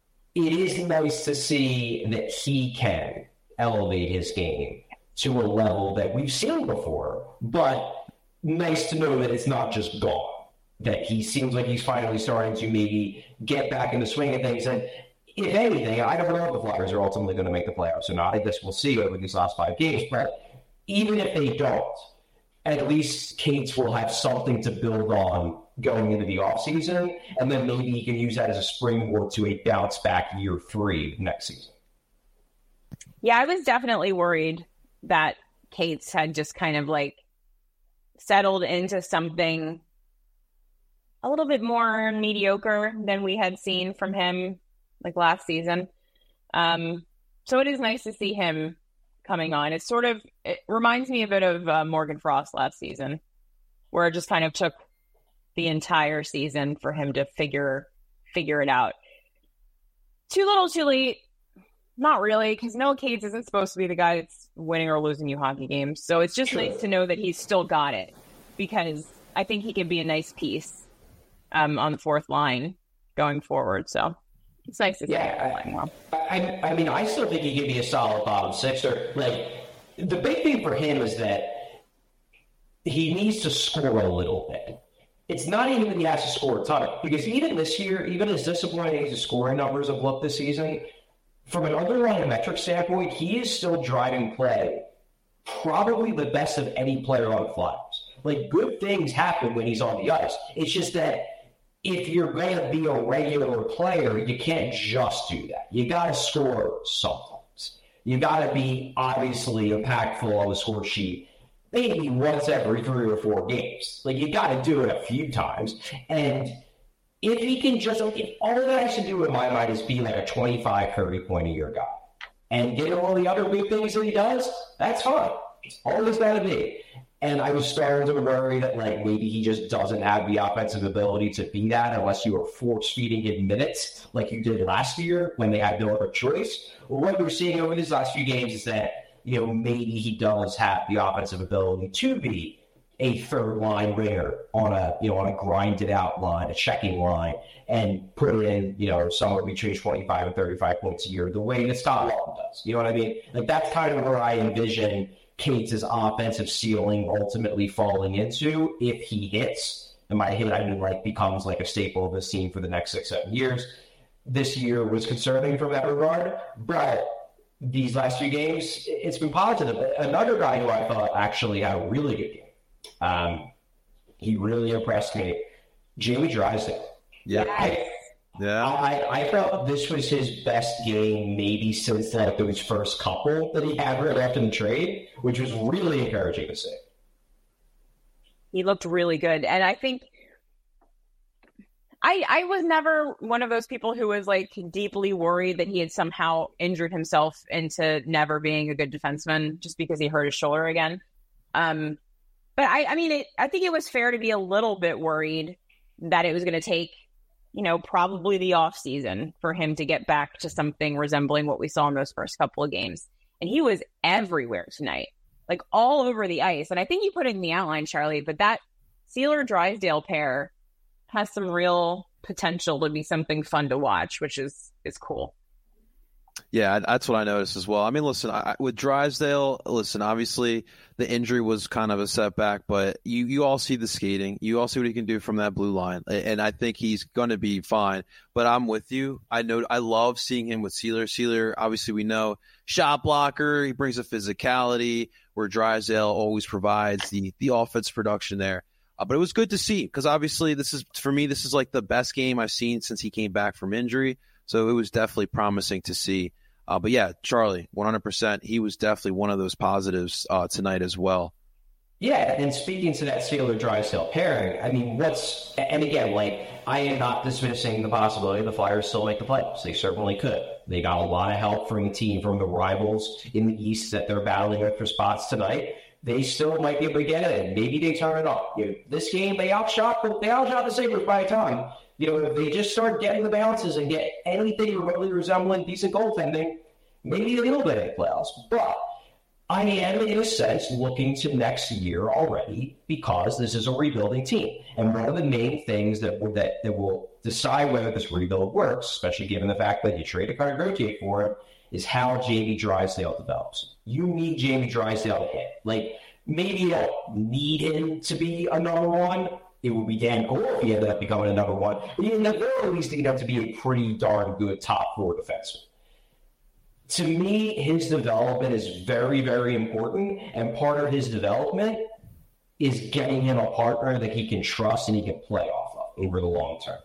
it is nice to see that he can elevate his game to a level that we've seen before. But nice to know that it's not just gone. That he seems like he's finally starting to maybe get back in the swing of things. And if anything, I don't know if the Flyers are ultimately going to make the playoffs or not. I guess we'll see over these last five games. But even if they don't, at least Cates will have something to build on going into the offseason, and then maybe he can use that as a springboard to a bounce back year three next season. Yeah, I was definitely worried that Cates had just kind of like settled into something a little bit more mediocre than we had seen from him like last season. Um, so it is nice to see him coming on. It's sort of, it reminds me a bit of uh, Morgan Frost last season, where it just kind of took the entire season for him to figure figure it out. Too little, too late. Not really, because Noah Cates isn't supposed to be the guy that's winning or losing you hockey games. So it's just nice to know that he's still got it, because I think he can be a nice piece um, on the fourth line going forward. So it's nice to see yeah, him playing well. I, I mean, I still think he could be a solid bottom sixer. Like, the big thing for him is that he needs to score a little bit. It's not even that he has to score a ton, because even this year, even as disappointing as his scoring numbers have looked this season, from an underlying metric standpoint, he is still driving play probably the best of any player on the Flyers. Like, good things happen when he's on the ice. It's just that if you're going to be a regular player, you can't just do that. You got to score sometimes. You got to be obviously impactful on the score sheet maybe once every three or four games. Like, you got to do it a few times. And if he can just, if all that has to do in my mind is be like a twenty-five, thirty point a year guy and get all the other big things that he does, that's fine. It's all it's got to be. And I was starting to worry that, like, maybe he just doesn't have the offensive ability to be that unless you are force-feeding him minutes like you did last year when they had no other choice. Well, what we're seeing over these last few games is that, you know, maybe he does have the offensive ability to be a third-line ringer on a, you know, on a grinded-out line, a checking line, and put in, you know, somewhere between twenty-five and thirty-five points a year, the way that Scott Laughton does. You know what I mean? Like, that's kind of where I envision Cates' offensive ceiling ultimately falling into if he hits. And by hit, I mean, like, becomes like a staple of this team for the next six, seven years. This year was concerning from that regard, but these last few games, it's been positive. Another guy who I thought actually had a really good game, um, he really impressed me, Jamie Drysdale. Yeah. I, Yeah, I, I felt this was his best game maybe since like those first couple that he had right after the trade, which was really encouraging to see. He looked really good. And I think I I was never one of those people who was like deeply worried that he had somehow injured himself into never being a good defenseman just because he hurt his shoulder again. Um, but I, I mean, it, I think it was fair to be a little bit worried that it was going to take, you know, probably the off season for him to get back to something resembling what we saw in those first couple of games. And he was everywhere tonight, like all over the ice. And I think you put it in the outline, Charlie, but that Seeler-Drysdale pair has some real potential to be something fun to watch, which is, is cool. Yeah, that's what I noticed as well. I mean, listen, I, with Drysdale, listen, obviously the injury was kind of a setback, but you, you all see the skating. You all see what he can do from that blue line, and I think he's going to be fine. But I'm with you. I know I love seeing him with Seeler. Seeler, obviously, we know, shot blocker. He brings a physicality where Drysdale always provides the, the offense production there. Uh, but it was good to see because obviously this is, for me, this is like the best game I've seen since he came back from injury. So it was definitely promising to see. Uh, but yeah, Charlie, one hundred percent. He was definitely one of those positives uh, tonight as well. Yeah, and speaking to that Seeler-Drysdale pairing, I mean, what's – and again, like, I am not dismissing the possibility the Flyers still make the playoffs. They certainly could. They got a lot of help from the team, from the rivals in the East that they're battling with for spots tonight. They still might be able to get it, and maybe they turn it off. You know, this game, they outshot, they outshot the Sabres by a ton. You know, if they just start getting the bounces and get anything remotely resembling decent goaltending, maybe a little bit in the playoffs. But I am, in a sense, looking to next year already because this is a rebuilding team. And one of the main things that that, that will decide whether this rebuild works, especially given the fact that you trade a card rotate for it, is how Jamie Drysdale develops. You need Jamie Drysdale to hit. Like, maybe you don't need him to be a number one. It would be Dan cool if he ended up becoming a number one. But in the very least, he'd have to be a pretty darn good top four defenseman. To me, his development is very, very important, and part of his development is getting him a partner that he can trust and he can play off of over the long term.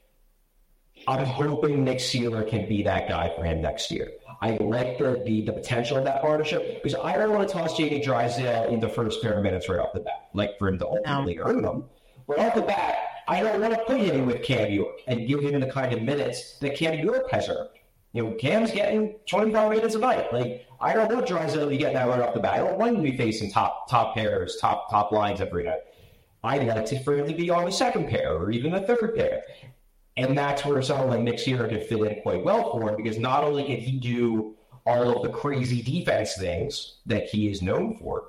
I'm hoping Nick Seeler can be that guy for him next year. I like the, the, the potential of that partnership because I don't want to toss Jamie Drysdale in the first pair of minutes right off the bat, like for him to ultimately earn them. But off the bat, I don't want to put him with Cam York and give him the kind of minutes that Cam York has earned. You know, Cam's getting twenty-five minutes a night. Like, I don't want Drysdale to be getting that right off the bat. I don't want him to be facing top top pairs, top top lines every night. I'd like to for him to be on the second pair or even the third pair. And that's where someone like Nick Seeler could fit in quite well for him because not only can he do all of the crazy defense things that he is known for,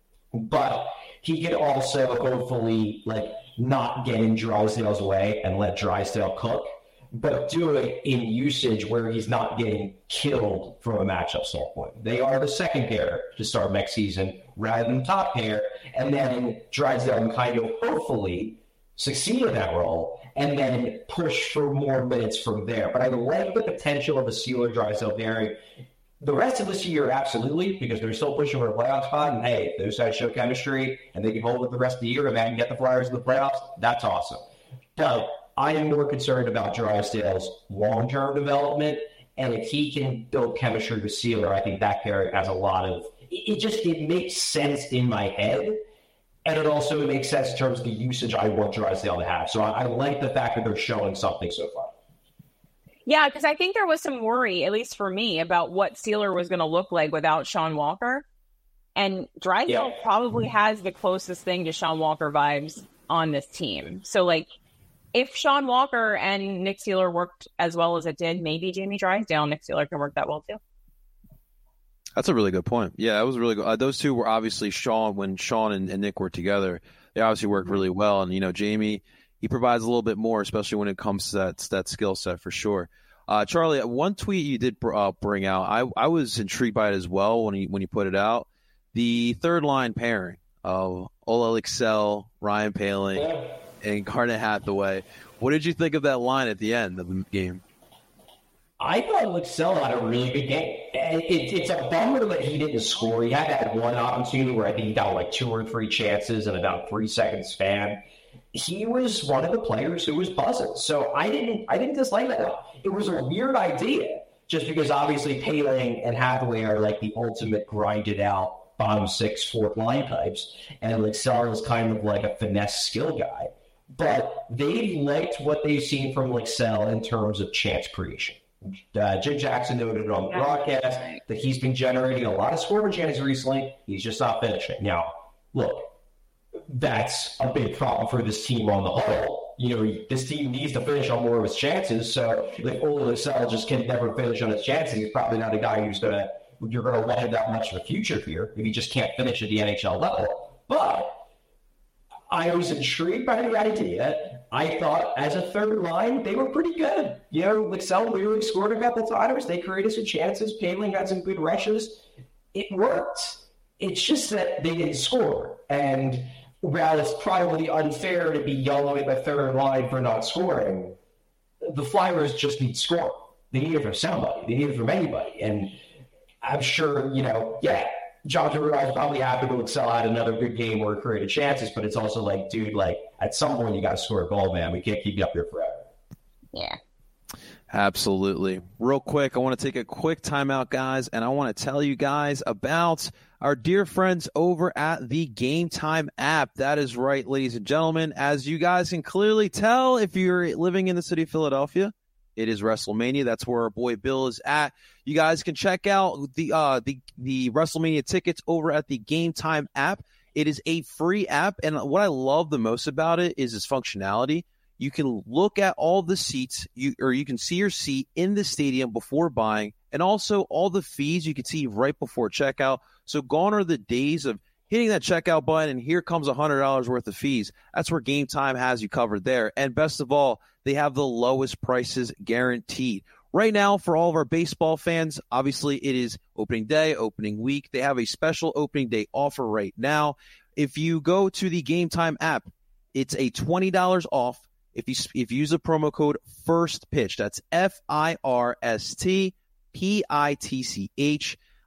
but he could also hopefully like not get in Drysdale's way and let Drysdale cook, but do it in usage where he's not getting killed from a matchup standpoint. They are the second pair to start next season rather than top pair, and then Drysdale can kind of hopefully succeed in that role and then push for more minutes from there. But I like the potential of a Seeler Drysdale pairing. The rest of this year, absolutely, because they're still pushing for a playoff spot. And hey, if those guys show chemistry and they can hold it the rest of the year and then get the Flyers in the playoffs, that's awesome. But I am more concerned about Drysdale's long-term development. And if he can build chemistry with Seeler, I think that pair has a lot of it. Just it makes sense in my head. And it also makes sense in terms of the usage I want Drysdale to have. So I, I like the fact that they're showing something so far. Yeah, because I think there was some worry, at least for me, about what Seeler was going to look like without Sean Walker. And Drysdale yeah. probably has the closest thing to Sean Walker vibes on this team. So, like, if Sean Walker and Nick Seeler worked as well as it did, maybe Jamie Drysdale and Nick Seeler can work that well, too. That's a really good point. Yeah, that was really good. Uh, those two were obviously Sean, when Sean and, and Nick were together, they obviously worked really well. And, you know, Jamie, he provides a little bit more, especially when it comes to that, that skill set for sure. Uh, Charlie, one tweet you did uh, bring out, I, I was intrigued by it as well when you, when you put it out. The third line pairing of Ola Lycksell, Ryan Poehling, yeah. and Garnet Hathaway. What did you think of that line at the end of the game? I thought Lycksell had a really good game. It, it's a bummer that he didn't score. He had that one opportunity where I think he got like two or three chances in about three second span. He was one of the players who was buzzing. So I didn't I didn't dislike that. It was a weird idea just because obviously Poehling and Hathaway are like the ultimate grinded out bottom six fourth line types. And Lycksell is kind of like a finesse skill guy. But they liked what they've seen from Lycksell in terms of chance creation. Uh, Jim Jackson noted on the broadcast that he's been generating a lot of scoring chances recently. He's just not finishing. Now, look, that's a big problem for this team on the whole. You know, this team needs to finish on more of his chances. So if Ola Lycksell just can never finish on his chances, he's probably not a guy who's gonna you're gonna want him that much of a future here if he just can't finish at the N H L level. But I was intrigued by the idea. I thought as a third line, they were pretty good. You know, Lycksell really scored a couple times. They created some chances. Poehling got some good rushes. It worked. It's just that they didn't score. And while it's probably unfair to be yelling at the third line for not scoring, the Flyers just need score. They need it from somebody. They need it from anybody. And I'm sure, you know, yeah, Jonathan Ruiz probably happy to Lycksell had another good game where he created chances, but it's also like, dude, like, at some point you got to score a goal, man. We can't keep you up here forever. Yeah. Absolutely. Real quick, I want to take a quick timeout, guys, and I want to tell you guys about our dear friends over at the Game Time app. That is right, ladies and gentlemen. As you guys can clearly tell, if you're living in the city of Philadelphia, it is WrestleMania. That's where our boy Bill is at. You guys can check out the uh, the the WrestleMania tickets over at the Game Time app. It is a free app, and what I love the most about it is its functionality. You can look at all the seats, you or you can see your seat in the stadium before buying, and also all the fees you can see right before checkout. So gone are the days of hitting that checkout button and here comes one hundred dollars worth of fees. That's where Game Time has you covered there. And best of all, they have the lowest prices guaranteed. Right now, for all of our baseball fans, obviously it is opening day, opening week. They have a special opening day offer right now. If you go to the Game Time app, it's a twenty dollars off if you if you use the promo code FIRSTPITCH. That's F I R S T P I T C H.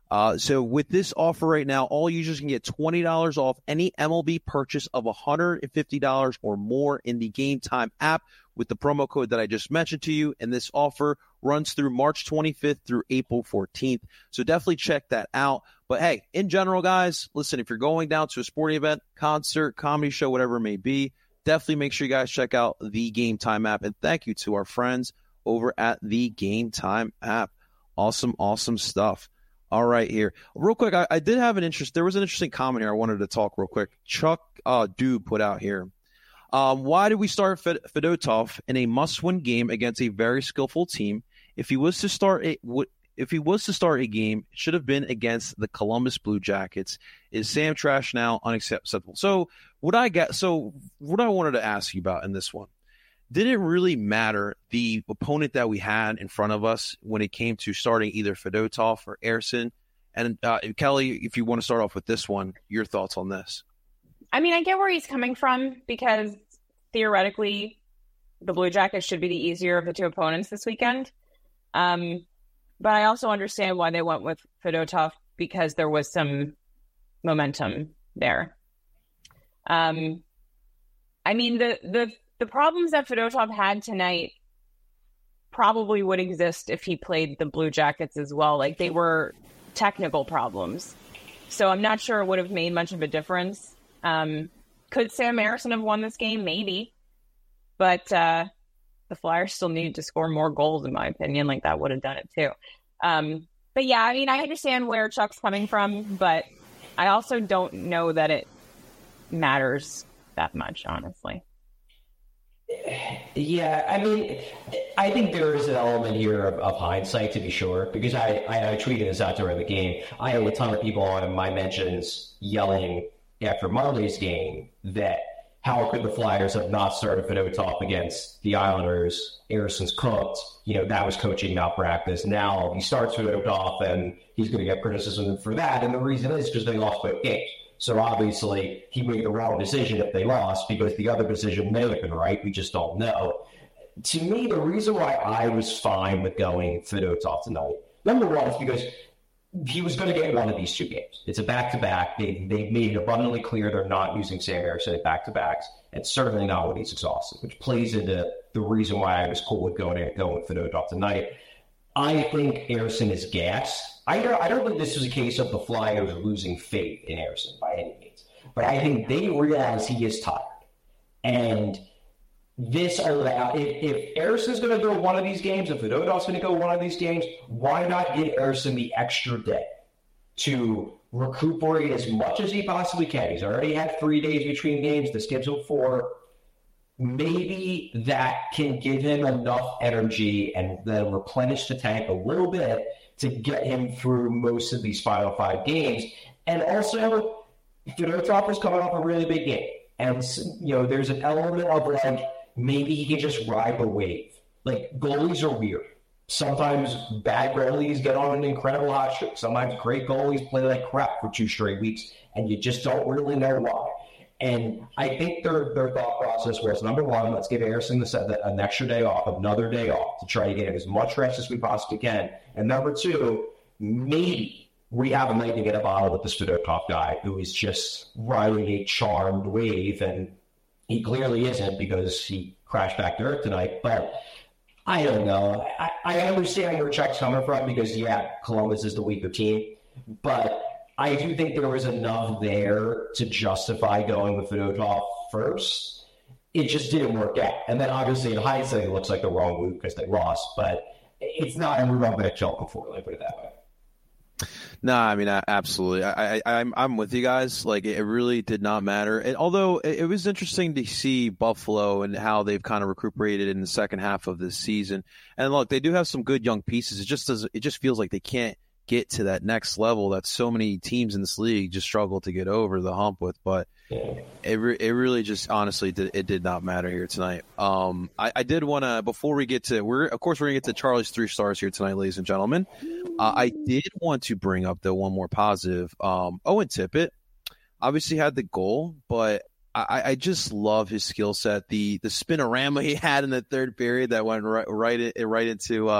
Uh, so with this offer right now, all users can get twenty dollars off any M L B purchase of one hundred fifty dollars or more in the Game Time app with the promo code that I just mentioned to you. And this offer runs through March twenty-fifth through April fourteenth. So definitely check that out. But hey, in general, guys, listen, if you're going down to a sporting event, concert, comedy show, whatever it may be, definitely make sure you guys check out the Game Time app. And thank you to our friends over at the Game Time app. Awesome, awesome stuff. All right, here. Real quick, I, I did have an interest. There was an interesting comment here I wanted to talk real quick. Chuck uh, Dube put out here. Um, why did we start Fed- Fedotov in a must-win game against a very skillful team? If he was to start a if he was to start a game, it should have been against the Columbus Blue Jackets. Is Sam Trash now unacceptable? So what I get, so what I wanted to ask you about in this one. Did it really matter the opponent that we had in front of us when it came to starting either Fedotov or Ersson? And uh, Kelly, if you want to start off with this one, your thoughts on this? I mean, I get where he's coming from because theoretically the Blue Jackets should be the easier of the two opponents this weekend. Um, but I also understand why they went with Fedotov because there was some momentum there. Um, I mean, the the The problems that Fedotov had tonight probably would exist if he played the Blue Jackets as well. Like, they were technical problems. So I'm not sure it would have made much of a difference. Um, could Sam Ersson have won this game? Maybe. But uh, the Flyers still needed to score more goals, in my opinion. Like, that would have done it too. Um, but yeah, I mean, I understand where Chuck's coming from, but I also don't know that it matters that much, honestly. Yeah, I mean, I think there is an element here of, of hindsight, to be sure, because I, I, I tweeted this out during the game. I had a ton of people on my mentions yelling after Monday's game that how could the Flyers have not started Fedotov against the Islanders? Ersson's cooked. You know, that was coaching malpractice. Now he starts Fedotov, and he's going to get criticism for that. And the reason is because they lost both games. So obviously he made the wrong decision if they lost because the other decision may have been right. We just don't know. To me, the reason why I was fine with going Fedotov tonight, number one, is because he was going to get one of these two games. It's a back-to-back. They, they made it abundantly clear they're not using Sam Ersson at back-to-backs, and certainly not when he's exhausted, which plays into the reason why I was cool with going, going with Fedotov tonight. I think Ersson is gassed. I don't, I don't think this is a case of the Flyers losing faith in Ersson by any means. But I think they realize he is tired. And this allow if, if Ersson's going to go one of these games, if Fedotov's going to go one of these games, why not give Ersson the extra day to recuperate as much as he possibly can? He's already had three days between games. The schedule four. Maybe that can give him enough energy and then replenish the tank a little bit to get him through most of these final five games. And also, Fedotov is coming off a really big game. And, you know, there's an element of, like, maybe he can just ride the wave. Like, goalies are weird. Sometimes bad goalies get on an incredible hot streak. Sometimes great goalies play like crap for two straight weeks, and you just don't really know why. And I think their their thought process was, number one, let's give Ersson the, an extra day off, another day off, to try to get him as much rest as we possibly can. And number two, maybe we have a night to get a bottle with this Fedotov guy who is just riding a charmed wave, and he clearly isn't because he crashed back to earth tonight. But I don't know. I, I understand where Chuck's coming from because, yeah, Columbus is the weaker team, but I do think there was enough there to justify going with Fedotov first. It just didn't work out. And then obviously in hindsight, it looks like the wrong move because they lost, but it's not a move I'm going to choke for, let me put it that way. No, I mean, absolutely. I, I, I'm I'm with you guys. Like, it really did not matter. And although it, it was interesting to see Buffalo and how they've kind of recuperated in the second half of this season. And look, they do have some good young pieces. It just does. It just feels like they can't get to that next level that so many teams in this league just struggle to get over the hump with. But it re- it really just honestly did, it did not matter here tonight. Um, I, I did want to, before we get to, we're of course we're gonna get to Charlie's three stars here tonight, ladies and gentlemen. Uh, I did want to bring up the one more positive. Um, Owen Tippett obviously had the goal, but I, I just love his skill set. The the spinorama he had in the third period that went right right, right into uh,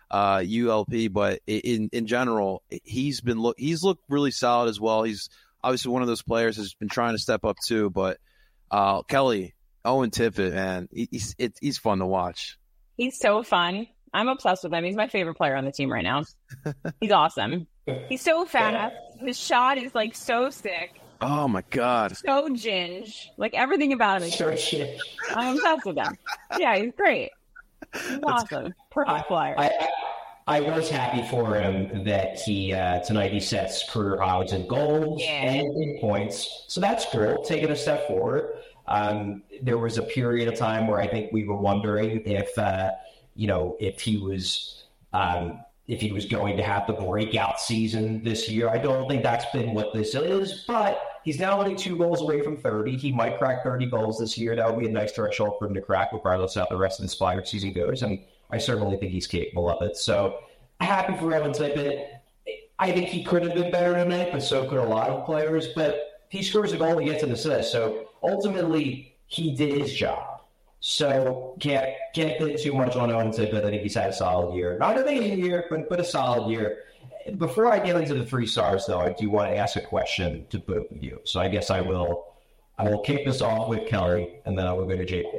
uh, U L P, but in in general, he's been look he's looked really solid as well. He's obviously one of those players who's been trying to step up too. But uh, Kelly, Owen Tippett, man, he's it, he's fun to watch. He's so fun. I'm obsessed with him. He's my favorite player on the team right now. He's awesome. He's so fast. His shot is like so sick. Oh my God. So ginge. Like everything about him is so ginge. I'm obsessed with him. Yeah, he's great. He's awesome. Perfect player. I, I, I was happy for him that he uh, tonight he sets career highs in goals Yeah. and in points. So that's cool. Taking a step forward. Um, there was a period of time where I think we were wondering if uh, you know if he was um, if he was going to have the breakout season this year. I don't think that's been what this is, but he's now only two goals away from thirty. He might crack thirty goals this year. That would be a nice threshold for him to crack, regardless of how the rest of this Flyers season goes. And I certainly think he's capable of it. So happy for Owen Tippett. I think he could have been better tonight, but so could a lot of players. But he scores a goal, he gets an assist. So ultimately, he did his job. So can't can't put too much on Owen Tippett. I think he's had a solid year. Not an amazing year, but, but a solid year. Before I get into the three stars, though, I do want to ask a question to both of you. So I guess I will I will kick this off with Kelly, and then I will go to J P.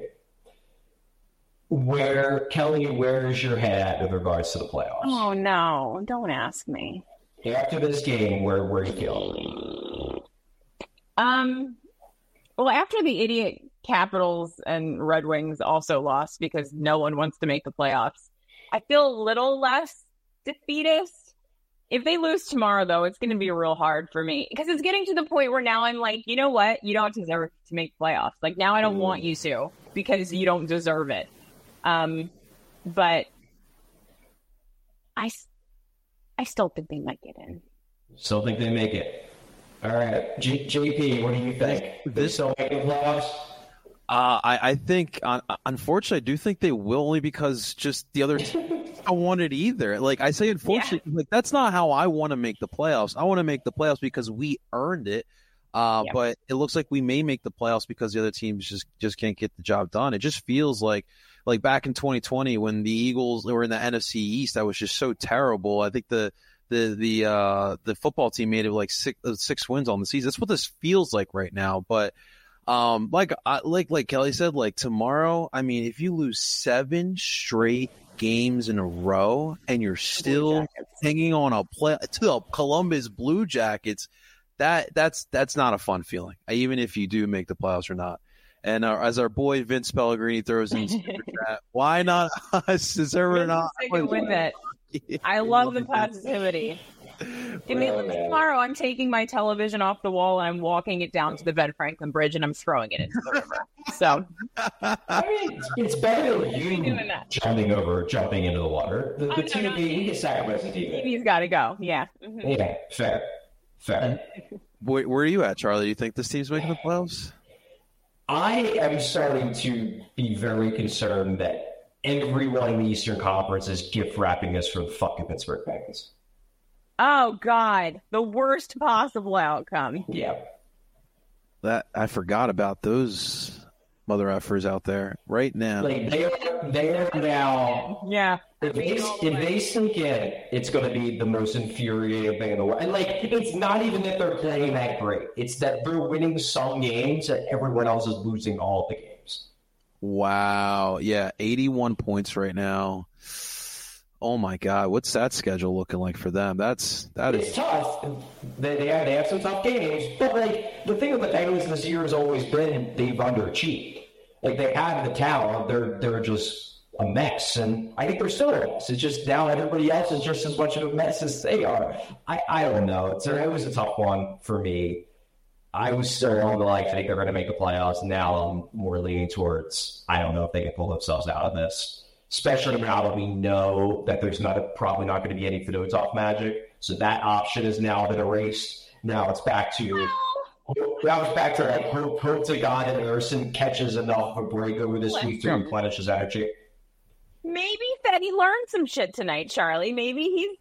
Where, Kelly, where is your head at with regards to the playoffs? Oh, no. Don't ask me. After this game, where, where are you feeling? Um, well, after the idiot Capitals and Red Wings also lost because no one wants to make the playoffs, I feel a little less defeatist. If they lose tomorrow, though, it's going to be real hard for me because it's getting to the point where now I'm like, you know what? You don't deserve to make playoffs. Like, now I don't mm. want you to because you don't deserve it. Um, but I, I still think they might get in. Still think they make it. All right. G- JP, what do you think? This still make the playoffs? Uh, I, I think, uh, unfortunately, I do think they will only because just the other team don't want it either. Like I say, unfortunately, yeah. like that's not how I want to make the playoffs. I want to make the playoffs because we earned it. Uh, yeah. But it looks like we may make the playoffs because the other teams just, just can't get the job done. It just feels like, like back in twenty twenty when the Eagles were in the N F C East, that was just so terrible. I think the, the, the, uh, the football team made it like six, uh, six wins on the season. That's what this feels like right now. But, um, like, uh, like, like Kelly said, like tomorrow, I mean, if you lose seven straight games in a row and you're still hanging on a play to the Columbus Blue Jackets, that that's that's not a fun feeling, even if you do make the playoffs or not. And uh, as our boy Vince Pellegrini throws in super chat, why not us? Is there not with it? I love the positivity. Give me tomorrow. I'm taking my television off the wall and I'm walking it down to the Ben Franklin Bridge and I'm throwing it into the river. So, I mean, it's better than you jumping over, jumping into the water. The, the T V, he gets sacrificed. T V. He's got to go. Yeah. Mm-hmm. Yeah. Fair. Fair. Where, where are you at, Charlie? Do you think this team's making the playoffs? I am starting to be very concerned that everyone in the Eastern Conference is gift wrapping us for the fucking Pittsburgh Penguins. Oh, God. The worst possible outcome. Yeah. That I forgot about those mother effers out there right now. Like they are, they are now. Yeah. If they, if they sink in, it's going to be the most infuriating thing in the world. And like, it's not even that they're playing that great. It's that they're winning some games and everyone else is losing all the games. Wow. Yeah. eighty-one points right now. Oh my God. What's that schedule looking like for them? That's, that it's is tough. They, they have, they have some tough games, but like the thing with the Penguins this year has always been they've underachieved. Like they have the talent. They're, they're just a mess, and I think they're still a mess. It's just now everybody else is just as much of a mess as they are. I, I don't know. It's a, it was a tough one for me. I was still on the like, I think they're going to make the playoffs. Now I'm more leaning towards, I don't know if they can pull themselves out of this, especially now that we know that there's not a, probably not going to be any Fedotov magic. So that option has now been erased. Now it's back to Now it's back to like, hope, hope to God that Ersson catches enough of a break over this week to replenish his energy. Maybe that he learned some shit tonight, Charlie. Maybe he's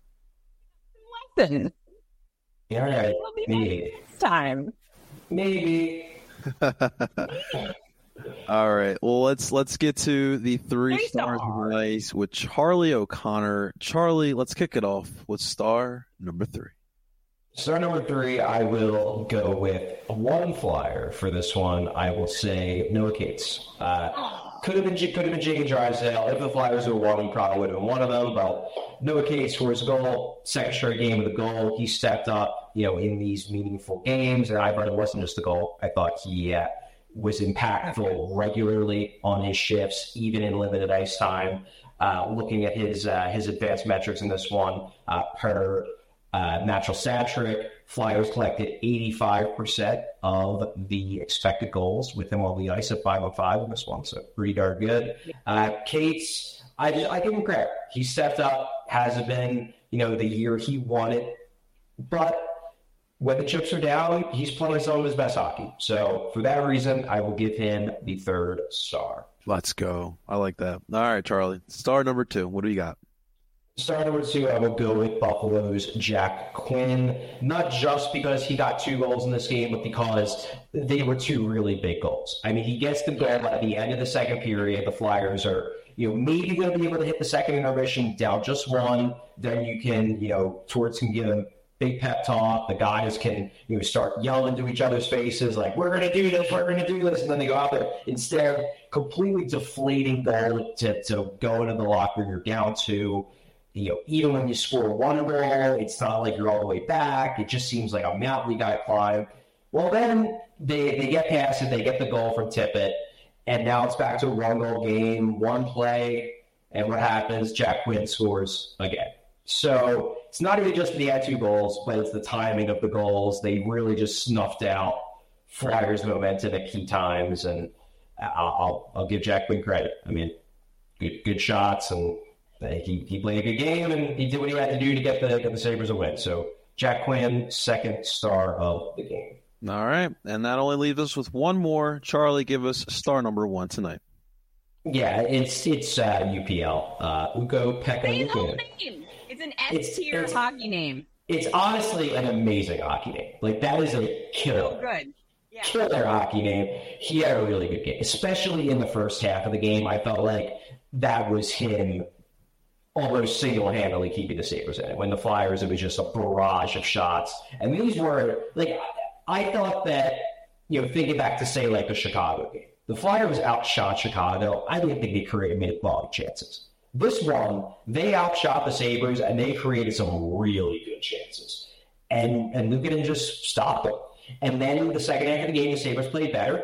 lesson. Yeah, right. Maybe. This time. Maybe. All right. Well, let's let's get to the three Three stars of stars. the night with Charlie O'Connor. Charlie, let's kick it off with star number three. Star number three, I will go with one flyer for this one. I will say Noah Cates. Uh, could have been could have been Jacob Drysdale. If the Flyers were one, he probably would have been one of them. But Noah Cates scores a goal, second straight game with a goal. He stepped up, you know, in these meaningful games, and I thought it wasn't just a goal. I thought he uh, was impactful regularly on his shifts, even in limited ice time. Uh, looking at his uh, his advanced metrics in this one, uh, per Uh, natural stat trick, Flyers collected eighty-five percent of the expected goals with him on the ice at five on five in this one, so pretty darn good. Uh, Cates, I just, I give him credit. He stepped up, hasn't been, you know, the year he wanted, but when the chips are down, he's playing some of his best hockey. So for that reason, I will give him the third star. Let's go. I like that. All right, Charlie. Star number two. What do you got? Star number two, I will go with Buffalo's Jack Quinn, not just because he got two goals in this game, but because they were two really big goals. I mean, he gets the goal at the end of the second period. The Flyers are, you know, maybe going to be able to hit the second intermission down just one. Then you can, you know, Torts can give him big pep talk. The guys can, you know, start yelling to each other's faces like, we're going to do this, we're going to do this. And then they go out there instead, completely deflating goal to, to go into the locker room. You're down two. You know, even when you score one goal, it's not like you're all the way back. It just seems like a mountain you got to climb. Well, then they, they get past it. They get the goal from Tippett. And now it's back to a one-goal game, one play. And what happens? Jack Quinn scores again. So it's not even just the had two goals, but it's the timing of the goals. They really just snuffed out Flyers' momentum at key times. And I'll, I'll, I'll give Jack Quinn credit. I mean, good, good shots and He, he played a good game, and he did what he had to do to get the get the Sabres a win. So Jack Quinn, second star of the game. All right. And that only leaves us with one more. Charlie, give us star number one tonight. Yeah, it's it's uh, U P L. Uh, Ukko-Pekka Luukkonen. It's an S-tier hockey name. It's honestly an amazing hockey name. Like, that is a killer. So good. Yeah. Killer hockey name. He had a really good game, especially in the first half of the game. I felt like that was him almost single-handedly keeping the Sabres in it. When the Flyers, it was just a barrage of shots. And these were, like, I thought that, you know, thinking back to, say, like, the Chicago game, the Flyers outshot Chicago. I didn't think they created many quality chances. This one, they outshot the Sabres, and they created some really good chances. And, and Luukkonen just stopped them. And then in the second half of the game, the Sabres played better.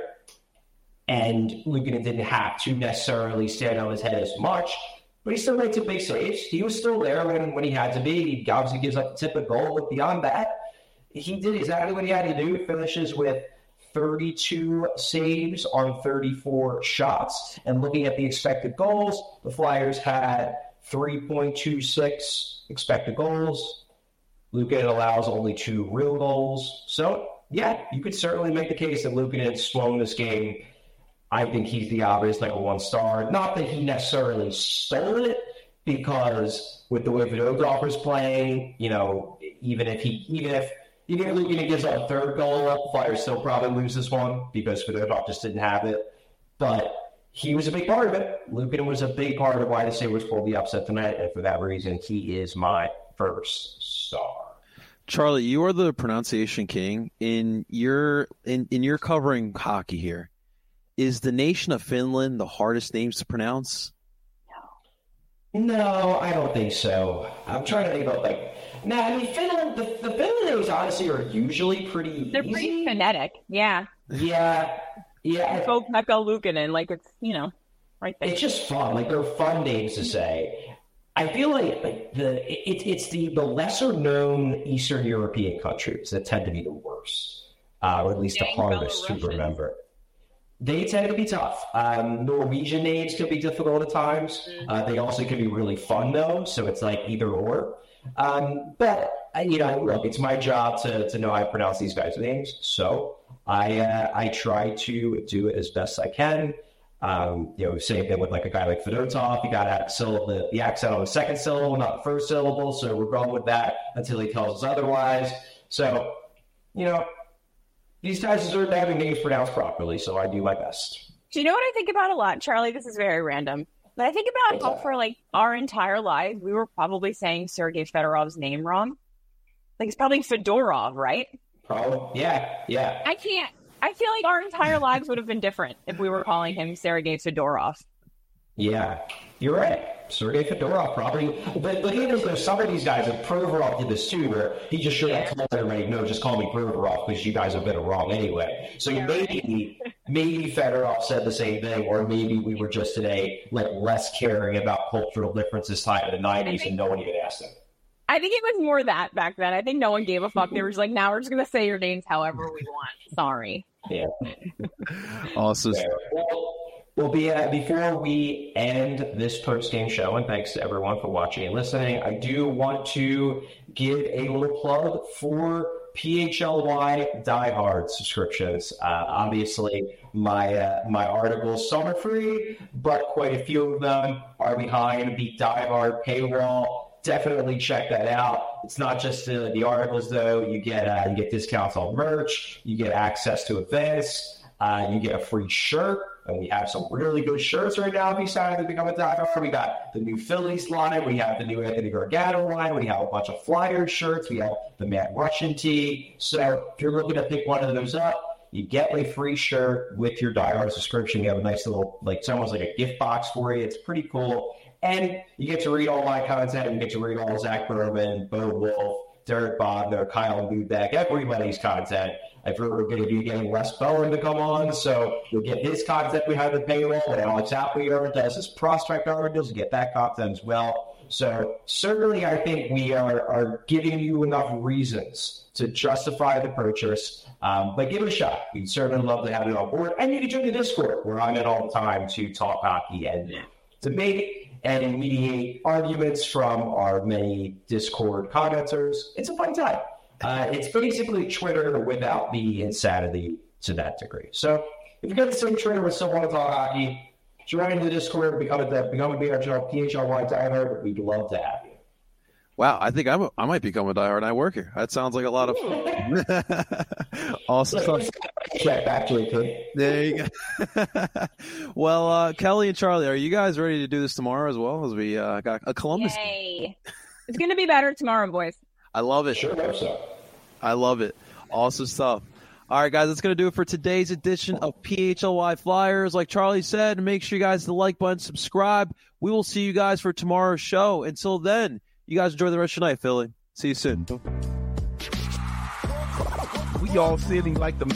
And Luukkonen didn't have to necessarily stand on his head as much. But he still made some big saves. He was still there when, when he had to be. He obviously gives up the tip of goal. But beyond that, he did exactly what he had to do. He finishes with thirty-two saves on thirty-four shots. And looking at the expected goals, the Flyers had three point two six expected goals. Luukkonen allows only two real goals. So, yeah, you could certainly make the case that Luukkonen swung this game. I think he's the obvious number one star. Not that he necessarily stole it, because with the way Fedotov is playing, you know, even if he, even if even if Luukkonen gives up a third goal, Flyers still probably lose this one because Fedotov just didn't have it. But he was a big part of it. Luukkonen was a big part of why the Sabres pulled the upset tonight, and for that reason, he is my first star. Charlie, you are the pronunciation king. In your in, in your covering hockey here, is the nation of Finland the hardest names to pronounce? No. No, I don't think so. I'm trying to think about, like, no, nah, I mean, Finland, the, the Finland names, honestly, are usually pretty They're easy. pretty phonetic, yeah. Yeah, yeah. Ukko-Pekka Luukkonen, like, it's, you know, right there. It's just fun. Like, they're fun names to say. I feel like, like the it, it's the, the lesser-known Eastern European countries that tend to be the worst, uh, or at least Dang, the hardest to remember. They tend to be tough. Um, Norwegian names can be difficult at times. Uh, they also can be really fun, though, so it's like either or. Um, but, you know, look, it's my job to, to know how to pronounce these guys' names, so I uh, I try to do it as best I can. Um, you know, same thing with like a guy like Fedotov. You got to have syllable, the, the accent on the second syllable, not the first syllable, so we're going with that until he tells us otherwise. So, you know, these guys deserve to have their names pronounced properly, so I do my best. Do you know what I think about a lot, Charlie? This is very random. But I think about how for like our entire lives, we were probably saying Sergei Fedorov's name wrong. Like it's probably Fedorov, right? Probably. Yeah, yeah. I can't. I feel like our entire lives would have been different if we were calling him Sergei Fedorov. Yeah, you're right. Sergei Fedorov probably. But but even though some of these guys, and Provorov did this too, where he just should have told everybody, no, just call me Provorov because you guys have been wrong anyway. So yeah, maybe right. maybe Fedorov said the same thing, or maybe we were just today like less caring about cultural differences tied to the nineties, and no one even asked him. I think it was more that back then. I think no one gave a fuck. They were just like, now we're just going to say your names however we want. Sorry. Yeah. Awesome. Well, well be, uh, before we end this post-game show, and thanks to everyone for watching and listening, I do want to give a little plug for P H L Y Die Hard subscriptions. Uh, obviously, my uh, my articles, some are free, but quite a few of them are behind the Die Hard paywall. Definitely check that out. It's not just uh, the articles, though. You get uh, you get discounts on merch. You get access to events. Uh, you get a free shirt. And we have some really good shirts right now. If you decide to become a Die Hard, we got the new Phillies line. We have the new Anthony Gargano line. We have a bunch of Flyers shirts. We have the Matt Russian tee. So if you're looking to pick one of those up, you get a free shirt with your Die Hard subscription. You have a nice little, like, it's almost like a gift box for you. It's pretty cool. And you get to read all my content. You get to read all Zach Berman, Bo Wolf, Derek Bodner, Kyle Lubeck, everybody's content. I feel we're going to be getting Wes Bowen to come on, so you'll get his content behind the paywall. And Alex Appley does his prospect articles. You get that content as well. So certainly I think we are, are giving you enough reasons to justify the purchase. Um, but give it a shot. We'd certainly love to have you on board. And you can join the Discord, where I'm in all the time to talk hockey and debate and mediate arguments from our many Discord commenters. It's a fun time. Uh, it's basically Twitter without the insanity to that degree. So if you got the same Twitter with someone to talk hockey, join the Discord, become a become a B H L, P H L Y diehard. We'd love to have you. Wow, I think I'm a, I might become a diehard and I work here. That sounds like a lot of fun. Awesome. Check actually, kid. There you go. Well, uh, Kelly and Charlie, are you guys ready to do this tomorrow as well? As we uh, got a Columbus. Yay! It's going to be better tomorrow, boys. I love it. Sure hope so. I love it. Awesome stuff. All right, guys, that's going to do it for today's edition of P H L Y Flyers. Like Charlie said, make sure you guys hit the like button, subscribe. We will see you guys for tomorrow's show. Until then, you guys enjoy the rest of your night, Philly. See you soon. We all sitting like the